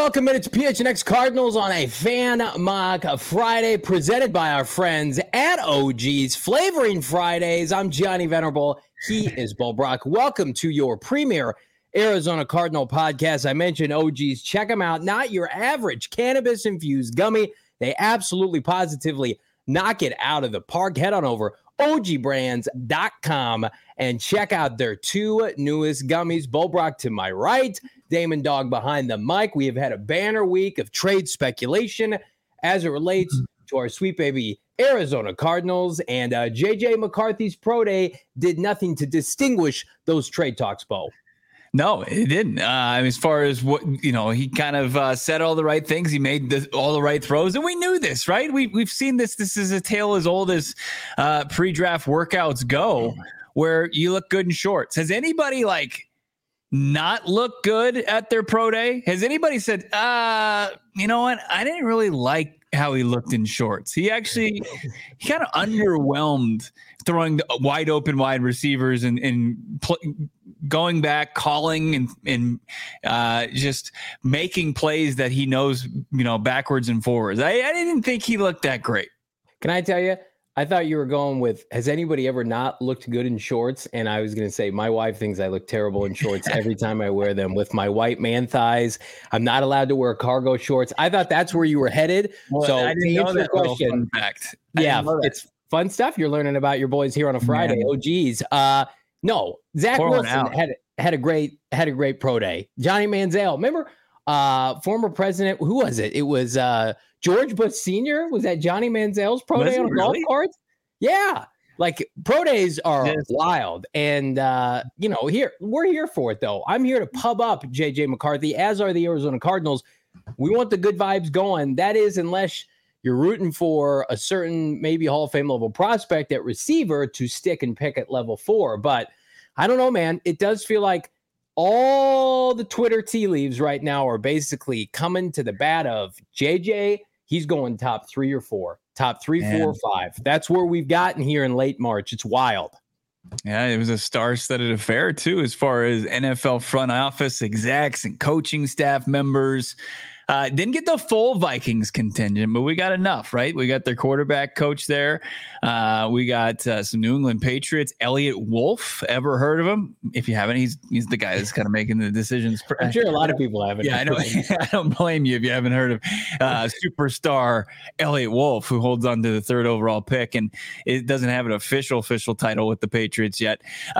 Welcome into PHNX Cardinals on a Fan Mock Friday, presented by our friends at OG's Flavoring Fridays. I'm Johnny Venerable. He is Bo Brock. Welcome to your premier Arizona Cardinal podcast. I mentioned OG's. Check them out. Not your average cannabis-infused gummy. They absolutely, positively knock it out of the park. Head on over ogbrands.com and check out their two newest gummies. Bo Brock to my right, Damon Dog behind the mic. We have had a banner week of trade speculation as it relates to our sweet baby Arizona Cardinals, and JJ McCarthy's pro day did nothing to distinguish those trade talks, Bo. No, it didn't. As far as what, he kind of said all the right things. He made all the right throws, and we knew this, right? We've seen this. This is a tale as old as pre-draft workouts go, where you look good in shorts. Has anybody not look good at their pro day? Has anybody said, you know what? I didn't really like how he looked in shorts. He kind of underwhelmed throwing wide open wide receivers and going back, calling and just making plays that he knows, backwards and forwards. I didn't think he looked that great. Can I tell you? I thought you were going with, has anybody ever not looked good in shorts? And I was going to say, my wife thinks I look terrible in shorts every time I wear them with my white man thighs. I'm not allowed to wear cargo shorts. I thought that's where you were headed. Well, so I didn't know that question, fact. Yeah, it's fun stuff you're learning about your boys here on a Friday. Man. Oh, geez. No, Zach Wilson had a great pro day. Johnny Manziel, remember former president, who was it? It was George Bush Sr. Was that Johnny Manziel's pro day on a golf cart? Yeah. Pro days are wild. And, we're here for it, though. I'm here to pub up JJ McCarthy, as are the Arizona Cardinals. We want the good vibes going. That is, unless you're rooting for a certain maybe Hall of Fame level prospect at receiver to stick and pick at level 4. But I don't know, man. It does feel like all the Twitter tea leaves right now are basically coming to the bat of JJ. He's going top 3 or 4, top 3, 4, or 5. That's where we've gotten here in late March. It's wild. Yeah, it was a star-studded affair, too, as far as NFL front office execs and coaching staff members. Didn't get the full Vikings contingent, but we got enough, right? We got their quarterback coach there. We got some New England Patriots. Elliott Wolf, ever heard of him? If you haven't, he's the guy that's kind of making the decisions. I'm sure a lot of people haven't. Yeah, I know. I don't blame you if you haven't heard of superstar Elliott Wolf, who holds on to the 3rd overall pick, and it doesn't have an official title with the Patriots yet.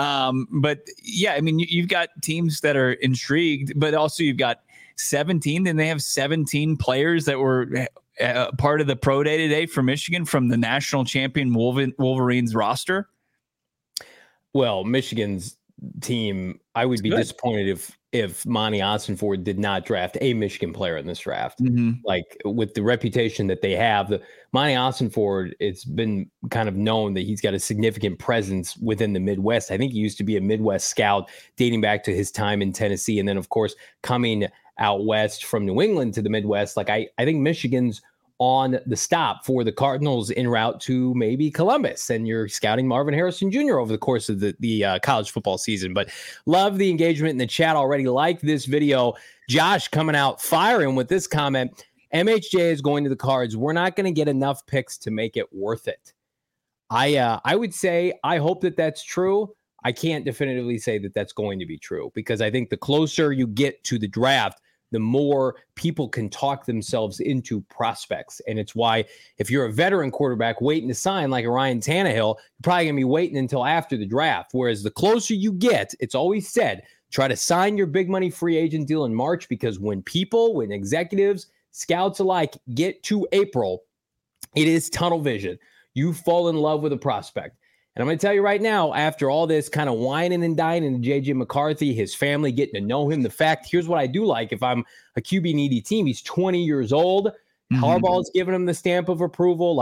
But yeah, I mean, you've got teams that are intrigued, but also you've got 17, and they have 17 players that were part of the pro day today for Michigan from the national champion Wolverines roster. Well, Michigan's team, I would be disappointed if Monty Ossenford did not draft a Michigan player in this draft. With the reputation that they have, Monty Ossenford, it's been kind of known that he's got a significant presence within the Midwest. I think he used to be a Midwest scout dating back to his time in Tennessee. And then, of course, coming out west from New England to the Midwest. I think Michigan's on the stop for the Cardinals en route to maybe Columbus, and you're scouting Marvin Harrison Jr. over the course of the college football season. But love the engagement in the chat already. Like this video. Josh coming out firing with this comment. MHJ is going to the Cards. We're not going to get enough picks to make it worth it. I would say I hope that that's true. I can't definitively say that that's going to be true, because I think the closer you get to the draft, the more people can talk themselves into prospects. And it's why if you're a veteran quarterback waiting to sign like a Ryan Tannehill, you're probably going to be waiting until after the draft. Whereas the closer you get, it's always said, try to sign your big money free agent deal in March, because when executives, scouts alike get to April, it is tunnel vision. You fall in love with a prospect. And I'm going to tell you right now, after all this kind of whining and dining to JJ McCarthy, his family getting to know him, the fact, here's what I do like. If I'm a QB needy team, he's 20 years old. Harbaugh's giving him the stamp of approval.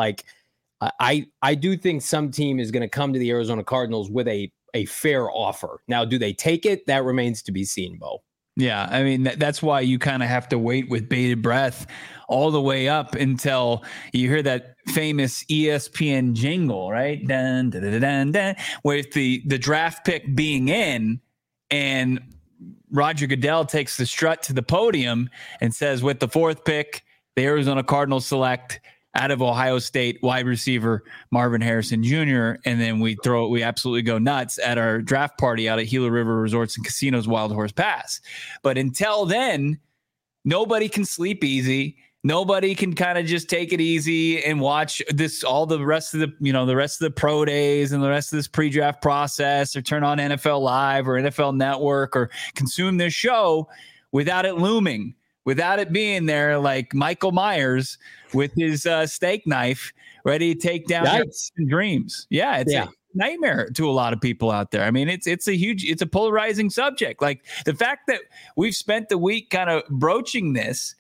I do think some team is going to come to the Arizona Cardinals with a fair offer. Now, do they take it? That remains to be seen, Bo. Yeah, I mean, that's why you kind of have to wait with bated breath all the way up until you hear that famous ESPN jingle, right? Dun, dun, dun, dun, dun, with the draft pick being in, and Roger Goodell takes the strut to the podium and says, with the 4th pick, the Arizona Cardinals select out of Ohio State wide receiver Marvin Harrison Jr. And then we absolutely go nuts at our draft party out at Gila River Resorts and Casinos Wild Horse Pass. But until then, nobody can sleep easy. Nobody can kind of just take it easy and watch all the rest of the pro days and the rest of this pre-draft process, or turn on NFL Live or NFL Network or consume this show without it looming, without it being there like Michael Myers with his steak knife ready to take down their dreams. Yeah, it's a nightmare to a lot of people out there. I mean, it's a polarizing subject. Like the fact that we've spent the week kind of broaching this,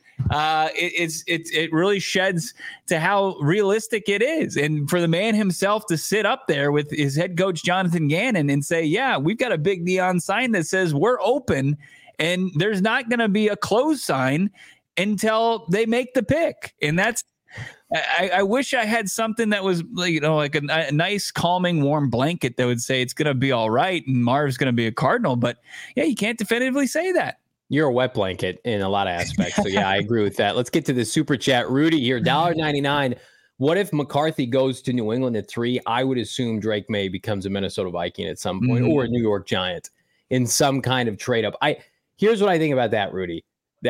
it really sheds to how realistic it is. And for the man himself to sit up there with his head coach Jonathan Gannon and say, yeah, we've got a big neon sign that says we're open, and there's not going to be a closed sign until they make the pick. And that's, I wish I had something that was, like a nice, calming, warm blanket that would say it's going to be all right and Marv's going to be a Cardinal. But yeah, you can't definitively say that. You're a wet blanket in a lot of aspects. So yeah, I agree with that. Let's get to the super chat. Rudy here, $1.99. What if McCarthy goes to New England at 3? I would assume Drake May becomes a Minnesota Viking at some point, or a New York Giant in some kind of trade up. Here's what I think about that, Rudy.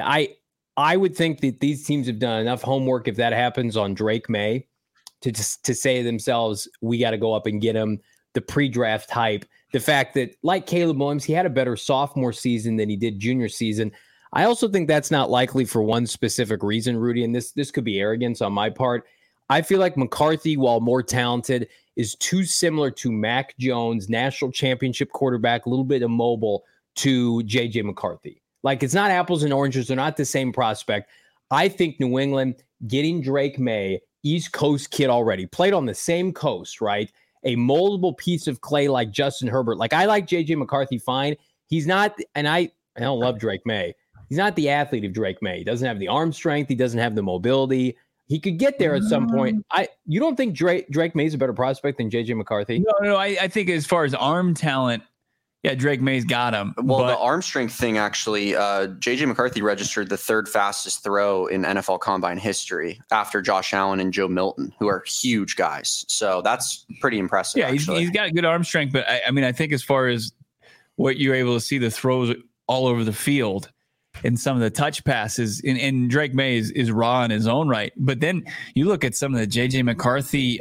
I would think that these teams have done enough homework, if that happens, on Drake May to say to themselves, we got to go up and get him. The pre-draft hype, the fact that, like Caleb Williams, he had a better sophomore season than he did junior season. I also think that's not likely for one specific reason, Rudy, and this could be arrogance on my part. I feel like McCarthy, while more talented, is too similar to Mac Jones, national championship quarterback, a little bit immobile, to J.J. McCarthy. Like, it's not apples and oranges. They're not the same prospect. I think New England getting Drake May, East Coast kid already, played on the same coast, right? A moldable piece of clay like Justin Herbert. Like, I like J.J. McCarthy fine. He's not, and I don't love Drake May. He's not the athlete of Drake May. He doesn't have the arm strength. He doesn't have the mobility. He could get there at some point. You don't think Drake May is a better prospect than J.J. McCarthy? No. I think as far as arm talent, yeah, Drake May's got him. Well, the arm strength thing, actually, J.J. McCarthy registered the 3rd fastest throw in NFL Combine history after Josh Allen and Joe Milton, who are huge guys. So that's pretty impressive. Yeah, he's got good arm strength. But, I mean, I think as far as what you're able to see, the throws all over the field and some of the touch passes, and Drake May is raw in his own right. But then you look at some of the J.J. McCarthy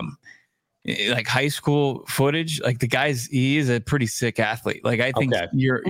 like high school footage, like the guy's, he is a pretty sick athlete. Like, I think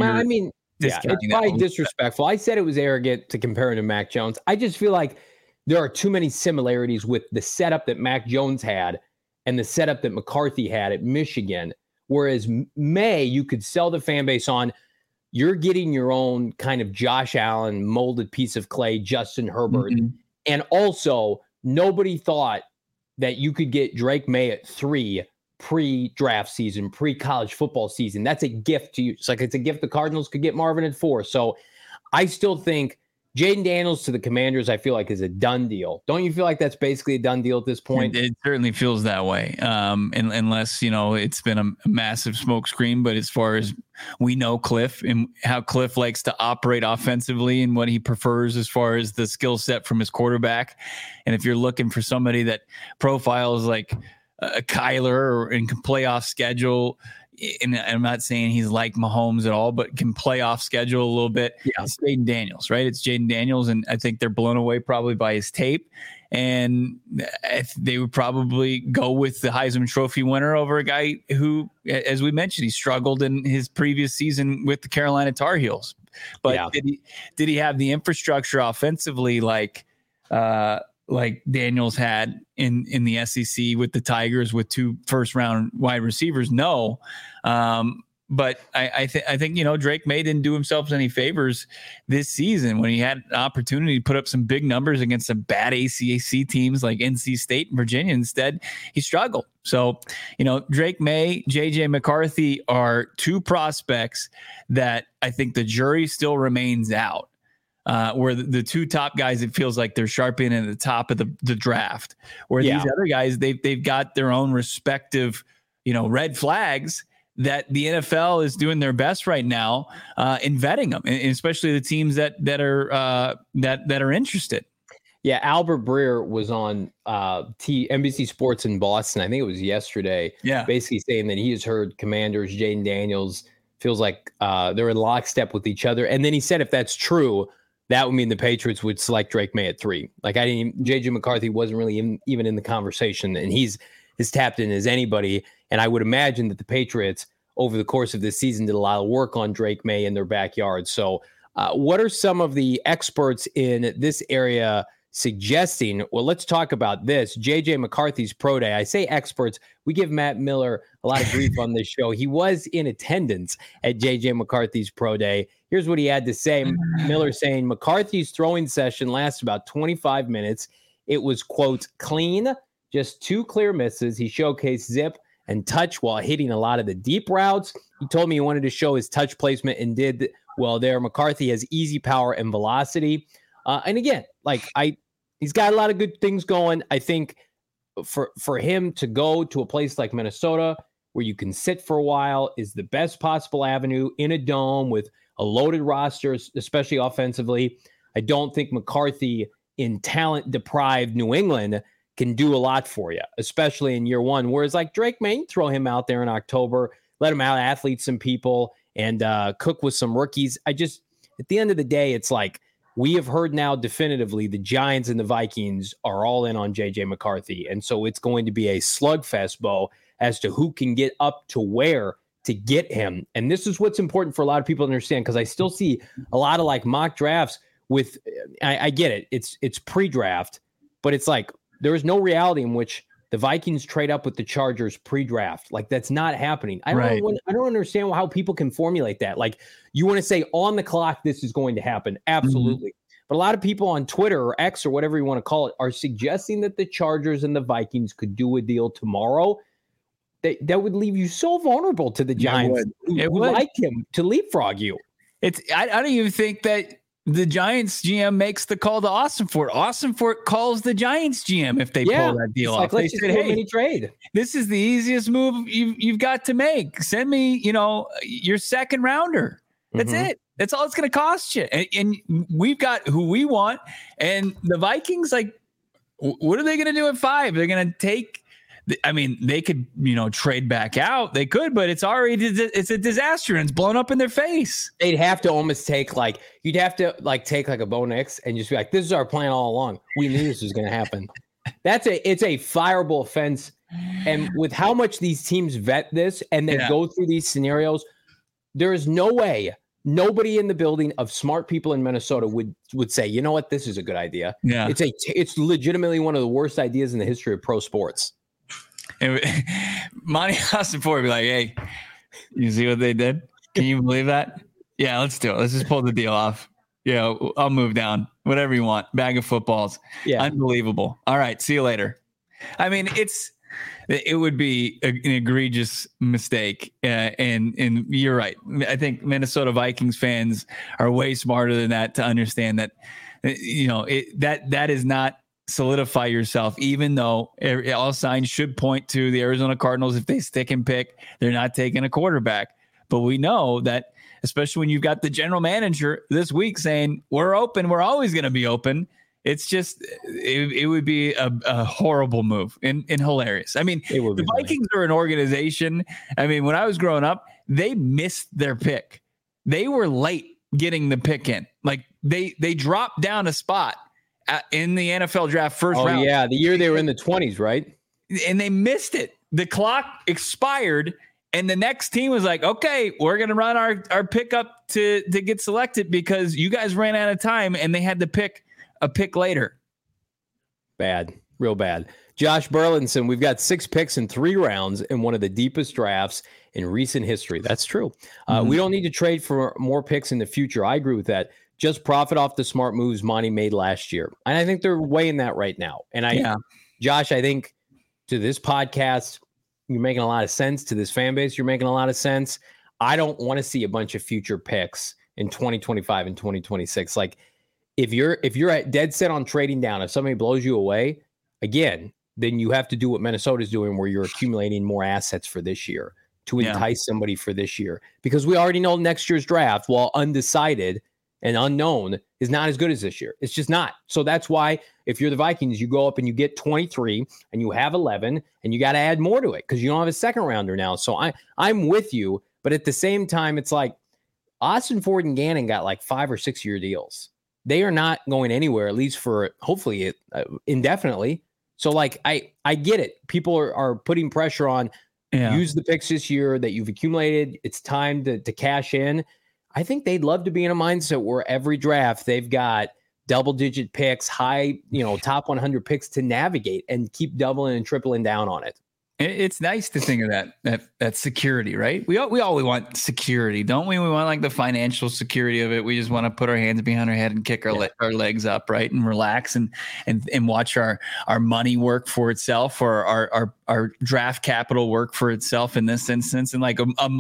it's probably disrespectful. I said it was arrogant to compare him to Mac Jones. I just feel like there are too many similarities with the setup that Mac Jones had and the setup that McCarthy had at Michigan. Whereas May, you could sell the fan base on, you're getting your own kind of Josh Allen molded piece of clay, Justin Herbert. Mm-hmm. And also, nobody thought that you could get Drake May at 3 pre-draft season, pre-college football season. That's a gift to you. It's like, it's a gift the Cardinals could get Marvin at 4. So I still think Jaden Daniels to the Commanders, I feel like, is a done deal. Don't you feel like that's basically a done deal at this point? It certainly feels that way. Unless, it's been a massive smoke screen. But as far as we know, Cliff, and how Cliff likes to operate offensively and what he prefers as far as the skill set from his quarterback. And if you're looking for somebody that profiles like a Kyler and can play off schedule, and I'm not saying he's like Mahomes at all, but can play off schedule a little bit. Yeah, it's Jaden Daniels, right? It's Jaden Daniels, and I think they're blown away probably by his tape. And they would probably go with the Heisman Trophy winner over a guy who, as we mentioned, he struggled in his previous season with the Carolina Tar Heels. But did he have the infrastructure offensively like Daniels had in the SEC with the Tigers with 2 first-round wide receivers? No. But I think, Drake May didn't do himself any favors this season when he had an opportunity to put up some big numbers against some bad ACC teams like NC State and Virginia. Instead, he struggled. So, Drake May, J.J. McCarthy are 2 prospects that I think the jury still remains out. Where the 2 top guys, it feels like they're sharpening at the top of the draft. Where these other guys, they've got their own respective, red flags that the NFL is doing their best right now in vetting them, and especially the teams that are interested. Yeah, Albert Breer was on NBC Sports in Boston. I think it was yesterday. Yeah, basically saying that he has heard Commanders, Jaden Daniels feels like they're in lockstep with each other. And then he said, if that's true, that would mean the Patriots would select Drake May at 3. Like JJ McCarthy wasn't really even in the conversation, and he's as tapped in as anybody. And I would imagine that the Patriots over the course of this season did a lot of work on Drake May in their backyard. So what are some of the experts in this area suggesting? Well, let's talk about this. JJ McCarthy's pro day. I say experts. We give Matt Miller a lot of grief on this show. He was in attendance at JJ McCarthy's pro day. Here's what he had to say. Miller saying McCarthy's throwing session lasted about 25 minutes. It was, quote, clean, just 2 clear misses. He showcased zip and touch while hitting a lot of the deep routes. He told me he wanted to show his touch placement and did well there. McCarthy has easy power and velocity. And again, he's got a lot of good things going. I think for him to go to a place like Minnesota where you can sit for a while is the best possible avenue in a dome with a loaded roster, especially offensively. I don't think McCarthy in talent-deprived New England can do a lot for you, especially in year one. Whereas like Drake May, throw him out there in October, let him out-athlete some people and cook with some rookies. At the end of the day, it's like, we have heard now definitively the Giants and the Vikings are all in on JJ McCarthy. And so it's going to be a slugfest, Bo, as to who can get up to where to get him. And this is what's important for a lot of people to understand, because I still see a lot of like mock drafts with, I get it. It's pre-draft, but it's like there is no reality in which the Vikings trade up with the Chargers pre-draft. Like that's not happening. I don't understand how people can formulate that. Like you want to say on the clock, this is going to happen. Absolutely. Mm-hmm. But a lot of people on Twitter or X or whatever you want to call it are suggesting that the Chargers and the Vikings could do a deal tomorrow. That would leave you so vulnerable to the Giants who like him to leapfrog you. I don't even think that the Giants GM makes the call to Austin Fort. Austin Fort calls the Giants GM if they pull that deal off. They said, "Hey, trade. This is the easiest move you've got to make. Send me, your second rounder. That's it. That's all it's going to cost you." And we've got who we want. And the Vikings, like, what are they going to do at 5? They're going to take. I mean, they could, trade back out. They could, but it's a disaster and it's blown up in their face. They'd have to almost take you'd have to take a Bo Nix and just be like, this is our plan all along. We knew this was going to happen. It's a fireable offense. And with how much these teams vet this and then go through these scenarios, there is no way nobody in the building of smart people in Minnesota would say, you know what, this is a good idea. Yeah. It's legitimately one of the worst ideas in the history of pro sports. And Monty Austin Ford would be like, hey, you see what they did? Can you believe that? Yeah, let's do it. Let's just pull the deal off. Yeah, I'll move down. Whatever you want. Bag of footballs. Yeah. Unbelievable. All right. See you later. I mean, it would be an egregious mistake. And you're right. I think Minnesota Vikings fans are way smarter than that to understand that, that is not solidify yourself, even though all signs should point to the Arizona Cardinals. If they stick and pick, they're not taking a quarterback. But we know that, especially when you've got the general manager this week saying, we're open, we're always going to be open. It's just, it would be a horrible move and hilarious. I mean, the Vikings are an organization. I mean, when I was growing up, they missed their pick. They were late getting the pick in. Like they dropped down a spot in the NFL draft first round. Oh, yeah. The year they were in the 20s, right? And they missed it. The clock expired, and the next team was like, okay, we're going to run our pickup to get selected because you guys ran out of time, and they had to pick a pick later. Bad. Real bad. Josh Burlinson, we've got 6 picks in 3 rounds in one of the deepest drafts in recent history. That's true. We don't need to trade for more picks in the future. I agree with that. Just profit off the smart moves Monty made last year. And I think they're weighing that right now. And Josh, I think to this podcast, you're making a lot of sense. To this fan base, you're making a lot of sense. I don't want to see a bunch of future picks in 2025 and 2026. Like if you're dead set on trading down, if somebody blows you away, again, then you have to do what Minnesota's doing where you're accumulating more assets for this year. to entice somebody for this year, because we already know next year's draft, while undecided and unknown, is not as good as this year. It's just not. So that's why if you're the Vikings, you go up and you get 23 and you have 11 and you got to add more to it because you don't have a second rounder now. So I'm with you. But at the same time, it's like Austin Ford and Gannon got like 5 or 6 year deals. They are not going anywhere, at least for hopefully indefinitely. So like, I get it. People are putting pressure on. Use the picks this year that you've accumulated. It's time to cash in. I think they'd love to be in a mindset where every draft they've got double-digit picks, high, top 100 picks to navigate and keep doubling and tripling down on it. It's nice to think of that security, right? We always want security, don't we? We want like the financial security of it. We just want to put our hands behind our head and kick our legs up, right, and relax and watch our money work for itself, or our draft capital work for itself in this instance. And like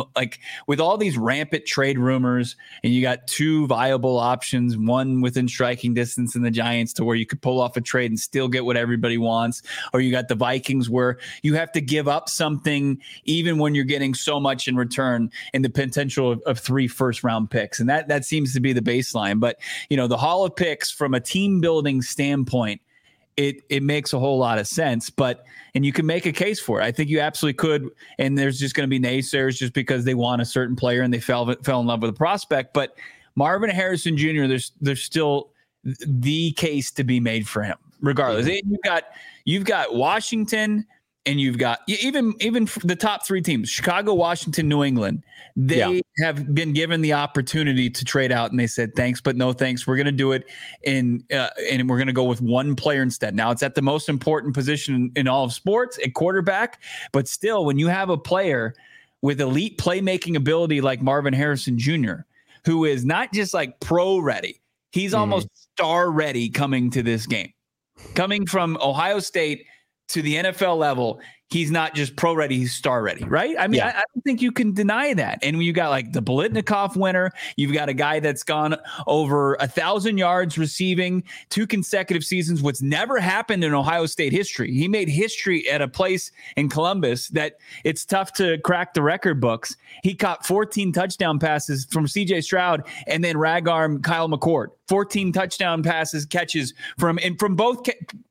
with all these rampant trade rumors, and you got 2 viable options, one within striking distance in the Giants to where you could pull off a trade and still get what everybody wants, or you got the Vikings where you have to give up something even when you're getting so much in return, in the potential of 3 first-round picks. And that seems to be the baseline. But, the haul of picks from a team-building standpoint, it makes a whole lot of sense. And you can make a case for it. I think you absolutely could. And there's just going to be naysayers just because they want a certain player and they fell in love with a prospect. But Marvin Harrison Jr., there's still the case to be made for him, regardless. You've got Washington, and you've got even the top 3 teams, Chicago, Washington, New England. They have been given the opportunity to trade out, and they said, thanks, but no thanks. We're going to do it and we're going to go with one player instead. Now, it's at the most important position in all of sports, at quarterback. But still, when you have a player with elite playmaking ability like Marvin Harrison Jr., who is not just like pro ready, he's almost star ready coming to this game. Coming from Ohio State to the NFL level, he's not just pro ready, he's star ready, right? I mean, I don't think you can deny that. And when you got like the Biletnikoff winner, you've got a guy that's gone over 1,000 yards receiving 2 consecutive seasons, what's never happened in Ohio State history. He made history at a place in Columbus that it's tough to crack the record books. He caught 14 touchdown passes from CJ Stroud and then rag arm Kyle McCord. 14 touchdown catches from both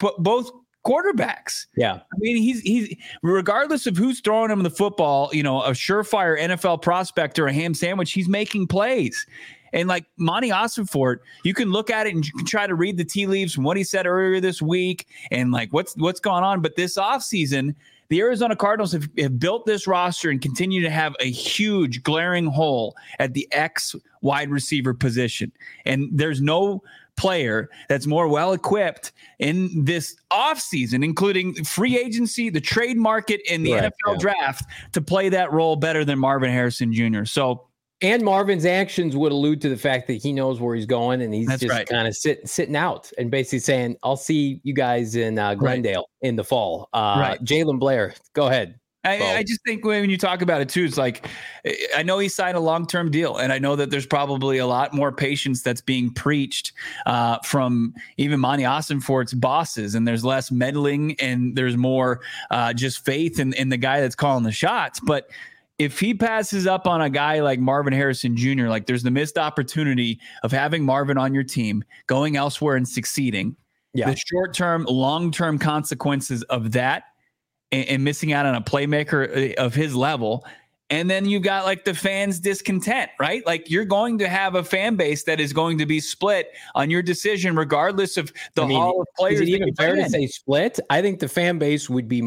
quarterbacks. Yeah. I mean, he's regardless of who's throwing him the football, a surefire NFL prospect or a ham sandwich, he's making plays. And like Monty Ossenfort, you can look at it and you can try to read the tea leaves from what he said earlier this week and like what's gone on. But this offseason, the Arizona Cardinals have built this roster and continue to have a huge glaring hole at the X wide receiver position. And there's no player that's more well-equipped in this offseason, including free agency, the trade market, and the NFL draft to play that role better than Marvin Harrison Jr. And Marvin's actions would allude to the fact that he knows where he's going, and he's kind of sitting out and basically saying, I'll see you guys in Glendale in the fall. Jalen Blair, go ahead. I just think when you talk about it too, it's like, I know he signed a long-term deal, and I know that there's probably a lot more patience that's being preached from even Monty Ossenfort's bosses, and there's less meddling and there's more just faith in the guy that's calling the shots. But if he passes up on a guy like Marvin Harrison Jr., like there's the missed opportunity of having Marvin on your team, going elsewhere and succeeding. The short-term, long-term consequences of that, and missing out on a playmaker of his level. And then you got like the fans' discontent, right? Like you're going to have a fan base that is going to be split on your decision, regardless of the haul of players. Is it even fair to say split? I think the fan base would be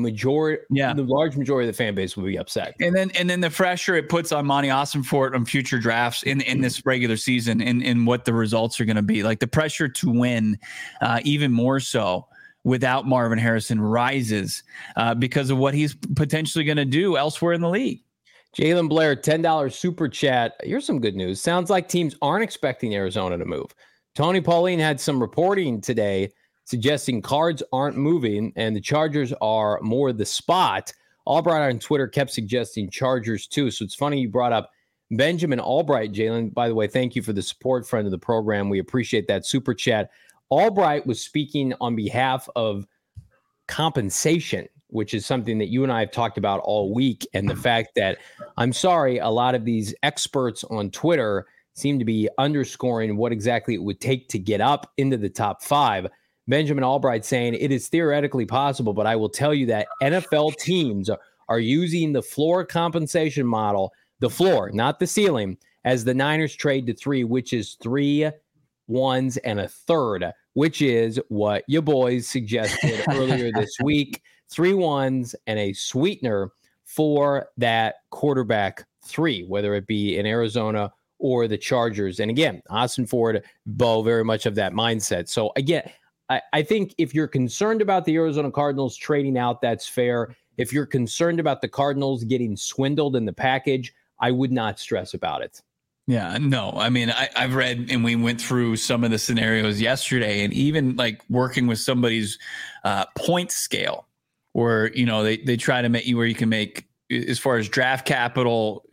the large majority of the fan base would be upset. And then the pressure it puts on Monty Ossenfort on future drafts in this regular season and what the results are going to be. Like the pressure to win, even more so without Marvin Harrison, rises because of what he's potentially going to do elsewhere in the league. Jalen Blair, $10 super chat. Here's some good news. Sounds like teams aren't expecting Arizona to move. Tony Pauline had some reporting today suggesting Cards aren't moving and the Chargers are more the spot. Albright on Twitter kept suggesting Chargers too. So it's funny you brought up Benjamin Albright, Jalen. By the way, thank you for the support, friend of the program. We appreciate that super chat. Albright was speaking on behalf of compensation which is something that you and I have talked about all week. And the fact that, I'm sorry, a lot of these experts on Twitter seem to be underscoring what exactly it would take to get up into the top 5. Benjamin Albright saying it is theoretically possible, but I will tell you that NFL teams are using the floor compensation model, the floor, not the ceiling, as the Niners trade to 3, which is 3 1s and a third, which is what your boys suggested earlier this week. 3 1s and a sweetener for that quarterback 3, whether it be in Arizona or the Chargers. And again, Austin Ford, Bo, very much of that mindset. So again, I think if you're concerned about the Arizona Cardinals trading out, that's fair. If you're concerned about the Cardinals getting swindled in the package, I would not stress about it. Yeah, no, I mean, I've read, and we went through some of the scenarios yesterday, and even like working with somebody's point scale, where, you know, they try to make you where you can make, as far as draft capital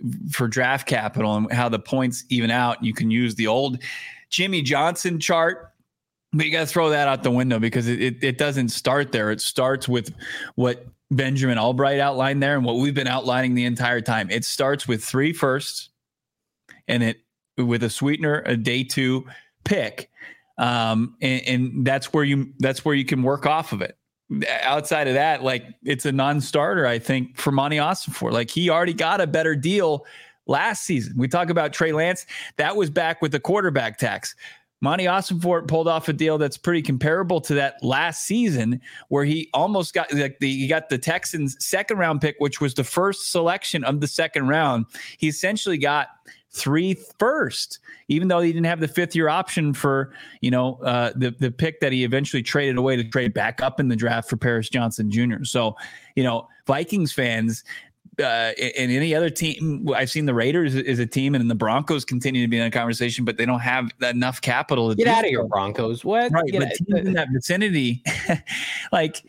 and how the points even out, you can use the old Jimmy Johnson chart, but you got to throw that out the window because it doesn't start there. It starts with what Benjamin Albright outlined there and what we've been outlining the entire time. It starts with 3 firsts. And it with a sweetener, a day 2 pick, and that's where you can work off of it. Outside of that, like, it's a non-starter, I think, for Monty Ossenfort. Like, he already got a better deal last season. We talk about Trey Lance, that was back with the quarterback tax. Monty Ossenfort pulled off a deal that's pretty comparable to that last season, where he almost got he got the Texans' 2nd round pick, which was the first selection of the 2nd round. He essentially got 3 firsts, even though he didn't have the 5th-year option for, you know, the pick that he eventually traded away to trade back up in the draft for Paris Johnson Jr. So, you know, Vikings fans and any other team, I've seen the Raiders is a team, and the Broncos continue to be in a conversation, but they don't have enough capital to get out of here, Broncos. What? Right, but teams in that vicinity, like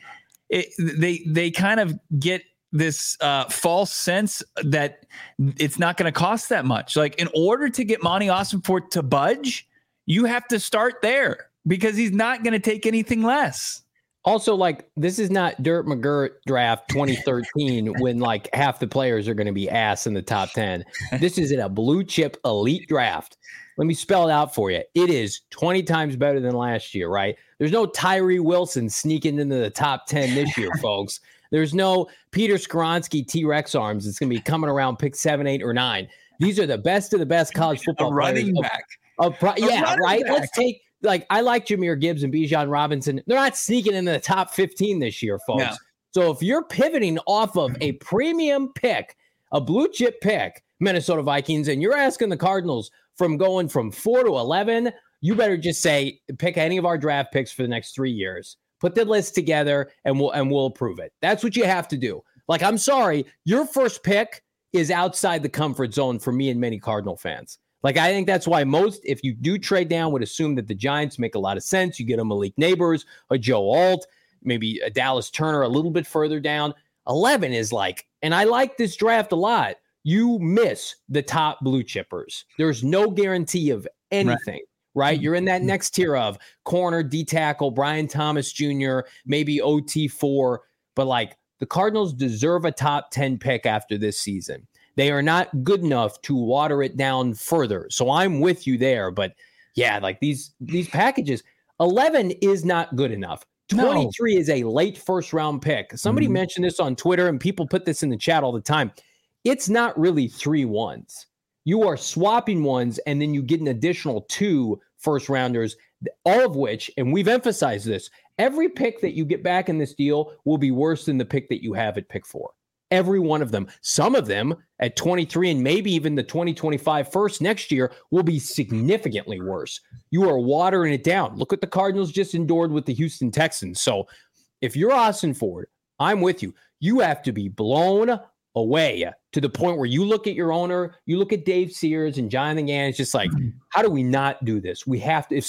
they kind of get this false sense that it's not going to cost that much. Like, in order to get Monty Ossenfort to budge, you have to start there because he's not going to take anything less. Also, like, this is not Dirt McGirt draft 2013 when like half the players are going to be ass in the top 10. This is in a blue chip elite draft. Let me spell it out for you. It is 20 times better than last year, right? There's no Tyree Wilson sneaking into the top 10 this year, folks. There's no Peter Skoronski T-Rex arms. It's going to be coming around pick 7, 8, or 9. These are the best of the best college football running back. Yeah, right? Back. Let's take, like, I like Jahmyr Gibbs and Bijan Robinson. They're not sneaking into the top 15 this year, folks. Yeah. So if you're pivoting off of a premium pick, a blue chip pick, Minnesota Vikings, and you're asking the Cardinals from going from 4 to 11, you better just say, pick any of our draft picks for the next 3 years. Put the list together and we'll approve it. That's what you have to do. Like, I'm sorry, your first pick is outside the comfort zone for me and many Cardinal fans. Like, I think that's why most, if you do trade down, would assume that the Giants make a lot of sense. You get a Malik Neighbors, a Joe Alt, maybe a Dallas Turner a little bit further down. 11 is like, and I like this draft a lot, you miss the top blue chippers. There's no guarantee of anything. Right? You're in that next tier of corner, D-tackle, Brian Thomas Jr., maybe OT4. But, like, the Cardinals deserve a top 10 pick after this season. They are not good enough to water it down further. So I'm with you there. But, yeah, like, these packages, 11 is not good enough. 23 is a late first-round pick. Somebody mentioned this on Twitter, and people put this in the chat all the time. It's not really 3 1s. You are swapping ones, and then you get an additional 2 first-rounders, all of which, and we've emphasized this, every pick that you get back in this deal will be worse than the pick that you have at pick 4. Every one of them. Some of them at 23 and maybe even the 2025 first next year will be significantly worse. You are watering it down. Look what the Cardinals just endured with the Houston Texans. So if you're Ossenfort, I'm with you. You have to be blown away to the point where you look at your owner, you look at Dave Sears and Jonathan Gann, it's just like, how do we not do this? We have to,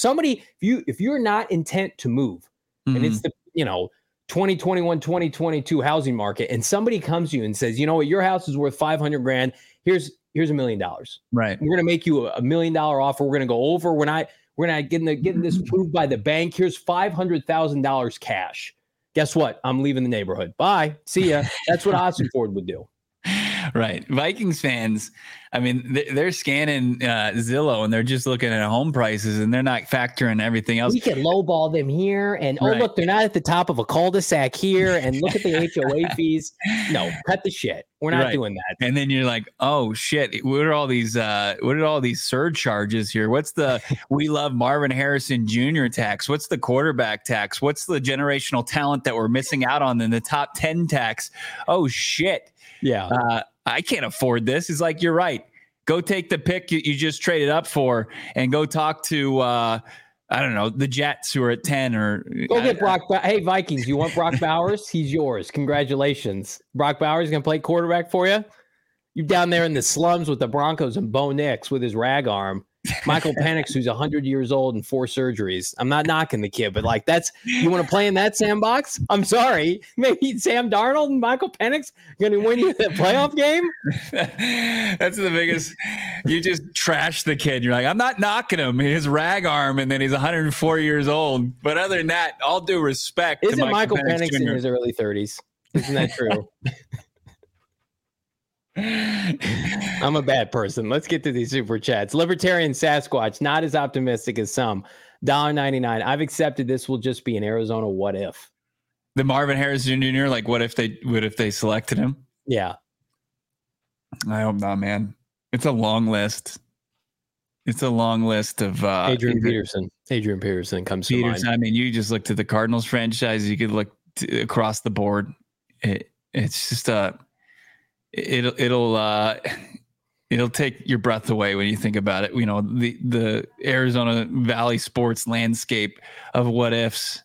if you're not intent to move, and it's the, 2021, 2022 housing market, and somebody comes to you and says, you know what, your house is worth $500,000. Here's $1 million. Right. We're going to make you a $1 million offer. We're going to go over. We're not getting this approved by the bank. Here's $500,000 cash. Guess what? I'm leaving the neighborhood. Bye. See ya. That's what Ossenford would do. Right. Vikings fans, I mean, they're scanning Zillow and they're just looking at home prices and they're not factoring everything else. We can lowball them here. And, oh, look, they're not at the top of a cul-de-sac here. And look at the HOA fees. No, cut the shit. We're not doing that. And then you're like, oh, shit. What are all these surcharges here? What's the we love Marvin Harrison Jr. tax? What's the quarterback tax? What's the generational talent that we're missing out on in the top 10 tax? Oh, shit. Yeah. I can't afford this. It's like, you're right. Go take the pick you just traded up for and go talk to, I don't know, the Jets who are at 10 or. Go get Brock. Hey, Vikings, you want Brock Bowers? He's yours. Congratulations. Brock Bowers going to play quarterback for you? You down there in the slums with the Broncos and Bo Nix with his rag arm. Michael Penix, who's 100 years old and 4 surgeries. I'm not knocking the kid, but like you want to play in that sandbox? I'm sorry. Maybe Sam Darnold and Michael Penix going to win you the playoff game? That's the biggest. You just trash the kid. You're like, I'm not knocking him. His rag arm, and then he's 104 years old. But other than that, all due respect. Isn't Michael Penix in his early 30s? Isn't that true? I'm a bad person. Let's get to these super chats. Libertarian Sasquatch, not as optimistic as some. $1.99. I've accepted this will just be an Arizona what if. The Marvin Harrison Jr., like what if they selected him? Yeah. I hope not, man. It's a long list. It's a long list of Adrian Peterson comes to mind. I mean, you just looked at the Cardinals franchise. You could look across the board. It's just it'll take your breath away when you think about it. You know, the Arizona Valley sports landscape of what ifs.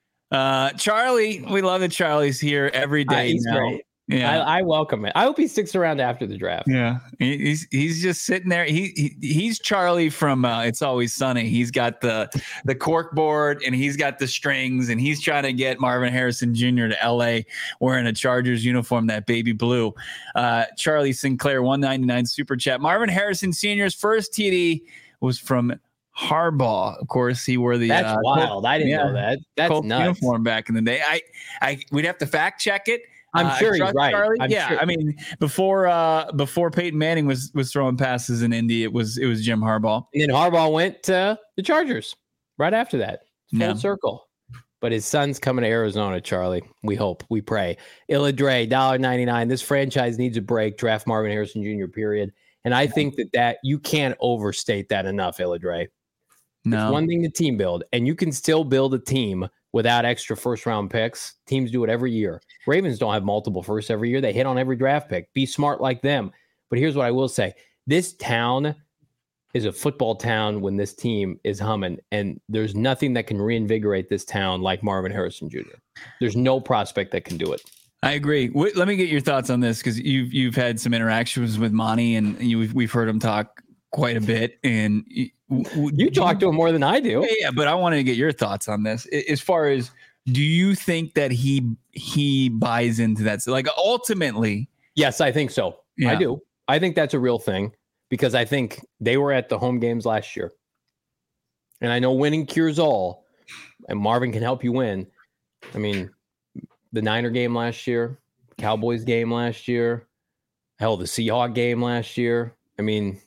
Charlie, we love that Charlie's here every day. He's great. Yeah, I welcome it. I hope he sticks around after the draft. Yeah, he's just sitting there. He's Charlie from It's Always Sunny. He's got the cork board and he's got the strings and he's trying to get Marvin Harrison Jr. to LA wearing a Chargers uniform, that baby blue. Charlie Sinclair, $1.99 super chat. Marvin Harrison Sr.'s first TD was from Harbaugh. Of course, he wore the that's wild. I didn't know that. That's Colts nuts. Uniform back in the day. We'd have to fact check it. I'm sure he's right. Charlie. Sure. I mean, before Peyton Manning was throwing passes in Indy, it was Jim Harbaugh. And then Harbaugh went to the Chargers right after that. Full circle. But his son's coming to Arizona, Charlie. We hope. We pray. Illa Dre, $1.99. This franchise needs a break. Draft Marvin Harrison Jr., period. And I think that you can't overstate that enough, Illa Dre. No. It's one thing to team build, and you can still build a team without extra first-round picks. Teams do it every year. Ravens don't have multiple firsts every year. They hit on every draft pick. Be smart like them. But here's what I will say. This town is a football town when this team is humming, and there's nothing that can reinvigorate this town like Marvin Harrison Jr. There's no prospect that can do it. I agree. Let me get your thoughts on this because you've had some interactions with Monty, and we've heard him talk quite a bit, and you talk to him more than I do. Yeah, but I wanted to get your thoughts on this. As far as, do you think that he buys into that? So, like, ultimately, yes, I think so. Yeah. I do. I think that's a real thing because I think they were at the home games last year, and I know winning cures all, and Marvin can help you win. I mean, the Niner game last year, Cowboys game last year, hell, the Seahawks game last year. I mean,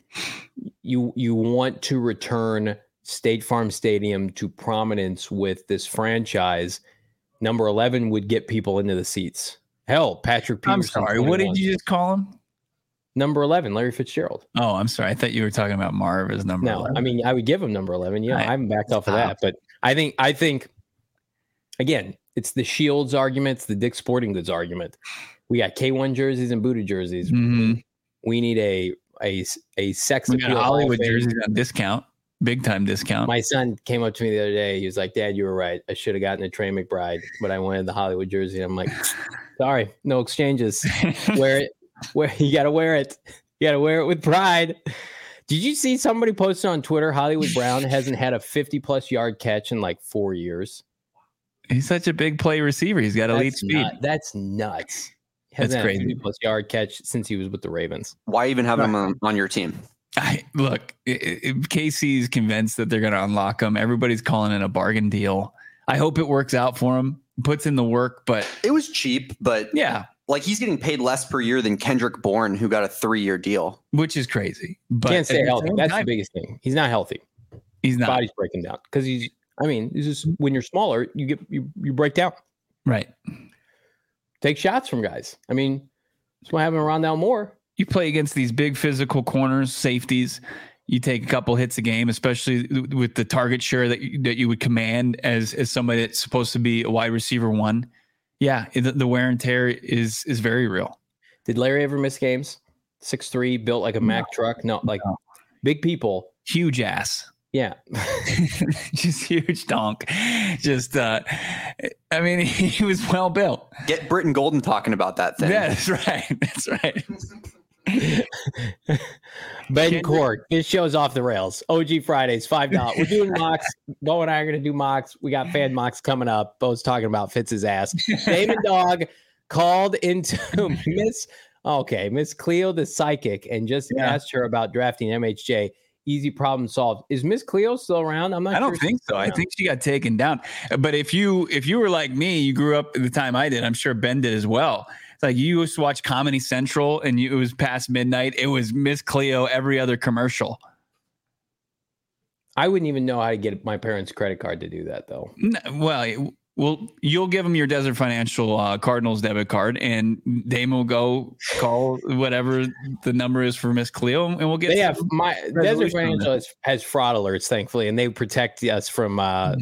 you want to return State Farm Stadium to prominence with this franchise. Number 11 would get people into the seats. Hell, Patrick Peterson. I'm sorry, 21. What did you just call him? Number 11, Larry Fitzgerald. Oh, I'm sorry. I thought you were talking about Marv as number 11. I mean, I would give him number 11. Yeah, I haven't backed off of that. But I think, again, it's the Shields argument. It's the Dick's Sporting Goods argument. We got K1 jerseys and booted jerseys. Mm-hmm. We need a sex appeal. We got Hollywood jerseys on discount, big time discount. My son came up to me the other day. He was like, "Dad, you were right. I should have gotten a Trey McBride, but I wanted the Hollywood jersey." I'm like, "Sorry, no exchanges. Wear it. You got to wear it. You got to wear it with pride." Did you see somebody posted on Twitter? Hollywood Brown hasn't had a 50+ yard catch in like 4 years. He's such a big play receiver. He's got elite speed. That's nuts. That's crazy. 50+ yard catch since he was with the Ravens. Why even have him on your team? Look, KC's convinced that they're going to unlock him. Everybody's calling it a bargain deal. I hope it works out for him. puts in the work, but it was cheap. But yeah, like he's getting paid less per year than Kendrick Bourne, who got a 3-year deal, which is crazy. But can't stay healthy. That's the biggest thing. He's not healthy. He's not. His body's breaking down because it's just when you're smaller, you break down. Right. Take shots from guys. I mean, that's what happened around Rondale Moore. You play against these big physical corners, safeties. You take a couple hits a game, especially with the target share that you would command as somebody that's supposed to be a wide receiver one. Yeah, the wear and tear is very real. Did Larry ever miss games? 6'3", built like a Mack truck. No, like big people. Huge ass. Yeah. Just huge donk. Just, I mean, he was well built. Get Britton Golden talking about that thing. Yeah, that's right. That's right. Ben Cork, this show's off the rails. OG Fridays, $5. We're doing mocks. Bo and I are going to do mocks. We got fan mocks coming up. Bo's talking about Fitz's ass. Damon Dog called into Miss Cleo the psychic and just asked her about drafting MHJ. Easy problem solved. Is Miss Cleo still around? I'm not. I don't think so. I think she got taken down. But if you were like me, you grew up at the time I did. I'm sure Ben did as well. It's like you used to watch Comedy Central, and it was past midnight. It was Miss Cleo every other commercial. I wouldn't even know how to get my parents' credit card to do that, though. Well, you'll give them your Desert Financial Cardinals debit card, and they will go call whatever the number is for Miss Cleo, and we'll get. Yeah, my Desert Financial has fraud alerts, thankfully, and they protect us from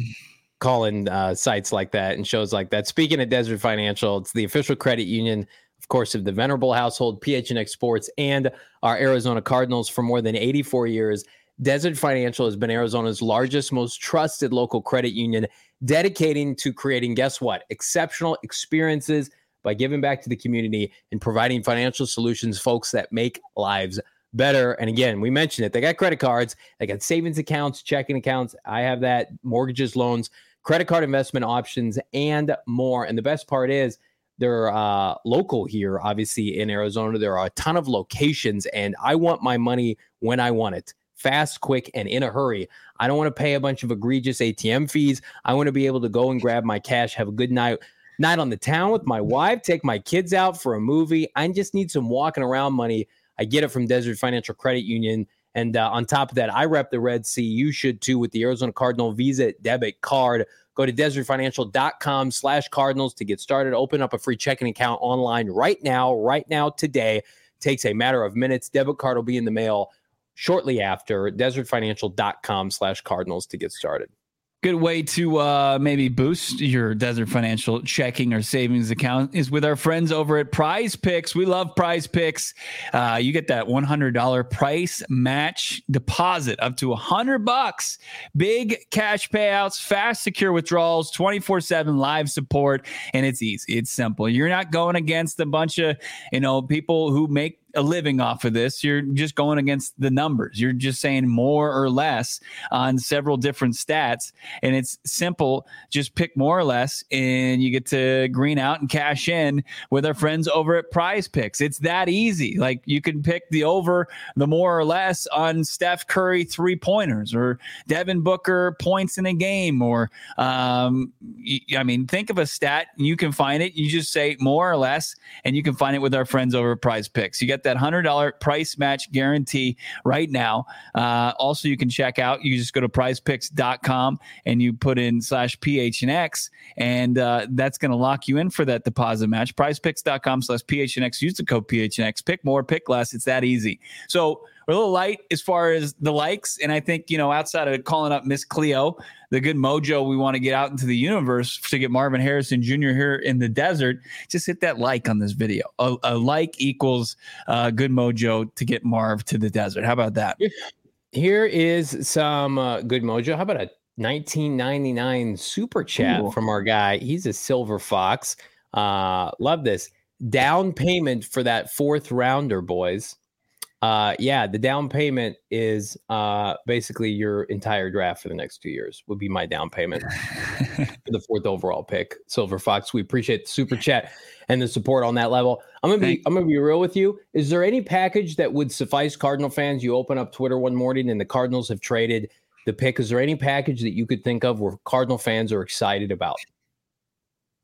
calling sites like that and shows like that. Speaking of Desert Financial, it's the official credit union, of course, of the venerable household PHNX Sports and our Arizona Cardinals for more than 84 years. Desert Financial has been Arizona's largest, most trusted local credit union, dedicating to creating, guess what, exceptional experiences by giving back to the community and providing financial solutions, folks, that make lives better. And again, we mentioned it. They got credit cards, they got savings accounts, checking accounts. I have that, mortgages, loans, credit card investment options, and more. And the best part is they're local here, obviously, in Arizona. There are a ton of locations, and I want my money when I want it. Fast, quick, and in a hurry. I don't want to pay a bunch of egregious ATM fees. I want to be able to go and grab my cash, have a good night on the town with my wife, take my kids out for a movie. I just need some walking around money. I get it from Desert Financial Credit Union. And on top of that, I rep the Red Sea. You should too with the Arizona Cardinal Visa debit card. Go to desertfinancial.com/Cardinals to get started. Open up a free checking account online right now, today. Takes a matter of minutes. Debit card will be in the mail shortly after. desertfinancial.com/Cardinals to get started. Good way to maybe boost your Desert Financial checking or savings account is with our friends over at Prize Picks. We love Prize Picks. You get that $100 price match deposit up to $100. Big cash payouts, fast, secure withdrawals, 24/7 live support, and it's easy. It's simple. You're not going against a bunch of people who make a living off of this. You're just going against the numbers. You're just saying more or less on several different stats, and it's simple. Just pick more or less, and you get to green out and cash in with our friends over at Prize Picks. It's that easy. Like you can pick the over, the more or less on Steph Curry 3-pointers or Devin Booker points in a game, or think of a stat. You can find it. You just say more or less, and you can find it with our friends over at Prize Picks. You get that $100 price match guarantee right now. Also, you can check out. You just go to prizepicks.com and you put in /PHNX, and that's going to lock you in for that deposit match. Prizepicks.com/PHNX. Use the code PHNX. Pick more, pick less. It's that easy. So we're a little light as far as the likes, and I think, outside of calling up Miss Cleo, the good mojo we want to get out into the universe to get Marvin Harrison Jr. here in the desert, just hit that like on this video. A like equals good mojo to get Marv to the desert. How about that? Here is some good mojo. How about a 1999 super chat from our guy? He's a Silver Fox. Love this. Down payment for that 4th rounder, boys. The down payment is basically your entire draft for the next 2 years would be my down payment for the 4th overall pick. Silver Fox, we appreciate the super chat and the support on that level. I'm gonna be real with you. Is there any package that would suffice Cardinal fans? You open up Twitter one morning and the Cardinals have traded the pick. Is there any package that you could think of where Cardinal fans are excited about?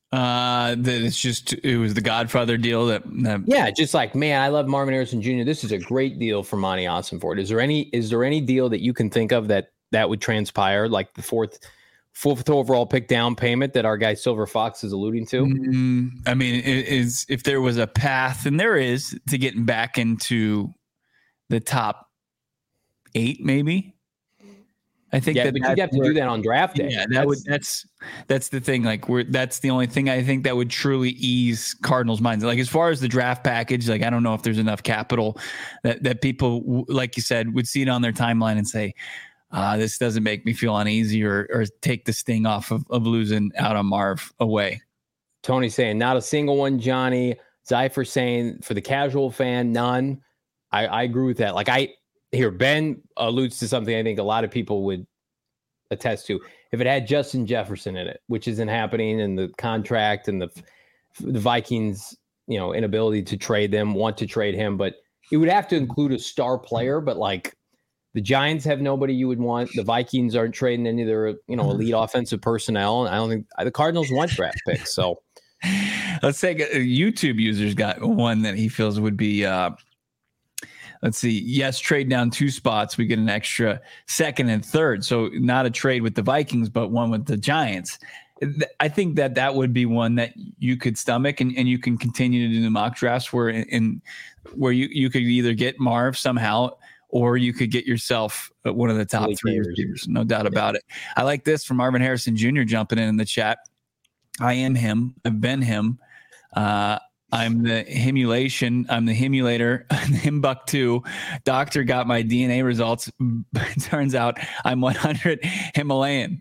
That it was the Godfather deal that yeah, just like, man, I love Marvin Harrison Jr. This is a great deal for Monty Ossenfort. Is there any deal that you can think of that would transpire, like the fourth overall pick down payment that our guy Silver Fox is alluding to? I mean, if there was a path, and there is, to getting back into the top 8, maybe. I think but you'd have to do that on draft day. Yeah, that's the thing. Like, that's the only thing I think that would truly ease Cardinals' minds. Like, as far as the draft package, like, I don't know if there's enough capital that people, like you said, would see it on their timeline and say, this doesn't make me feel uneasy or take the sting off of losing out on Marv away. Tony saying not a single one, Johnny. Zypher saying for the casual fan, none. I agree with that. Like, Ben alludes to something I think a lot of people would attest to. If it had Justin Jefferson in it, which isn't happening, and the contract and the Vikings, inability to want to trade him, but it would have to include a star player. But like, the Giants have nobody you would want. The Vikings aren't trading any of their, elite offensive personnel. And I don't think the Cardinals want draft picks. So let's say a YouTube user's got one that he feels would be, let's see. Yes, trade down 2 spots. We get an extra second and third. So not a trade with the Vikings, but one with the Giants. I think that would be one that you could stomach, and you can continue to do the mock drafts where you could either get Marv somehow, or you could get yourself one of the top 3 receivers. No doubt about it. I like this from Marvin Harrison Jr. jumping in the chat. I am him. I've been him. I'm the himulation. I'm the himulator. Himbuck 2. Doctor got my DNA results. Turns out I'm 100 Himalayan.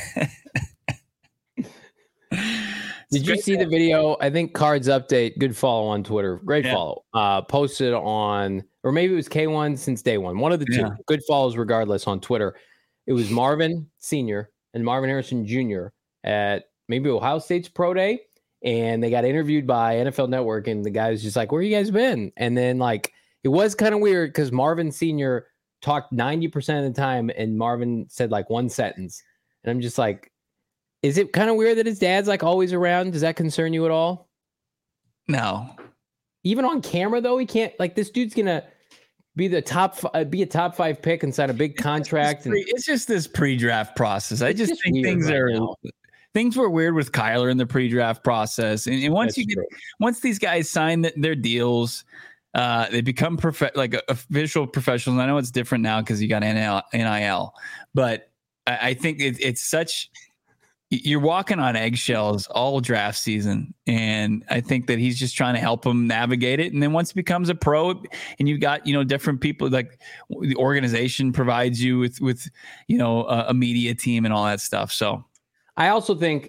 Did you see the video? I think Cards Update, good follow on Twitter. Great follow. Posted on, or maybe it was K1 since day one. One of the two. Good follows regardless on Twitter. It was Marvin Sr. and Marvin Harrison Jr. at maybe Ohio State's Pro Day. And they got interviewed by NFL Network, and the guy was just like, where you guys been? And then, like, it was kind of weird because Marvin Sr. talked 90% of the time, and Marvin said, like, one sentence. And I'm just like, is it kind of weird that his dad's, like, always around? Does that concern you at all? No. Even on camera, though, he can't, like, this dude's going to be a top 5 pick and sign a big contract. It's just this pre-draft process. I just think things were weird with Kyler in the pre-draft process. And once once these guys sign their deals, they become official professionals. I know it's different now because you got NIL, but I think it's such, you're walking on eggshells all draft season. And I think that he's just trying to help them navigate it. And then once it becomes a pro and you've got, different people, like the organization provides you with a media team and all that stuff. So I also think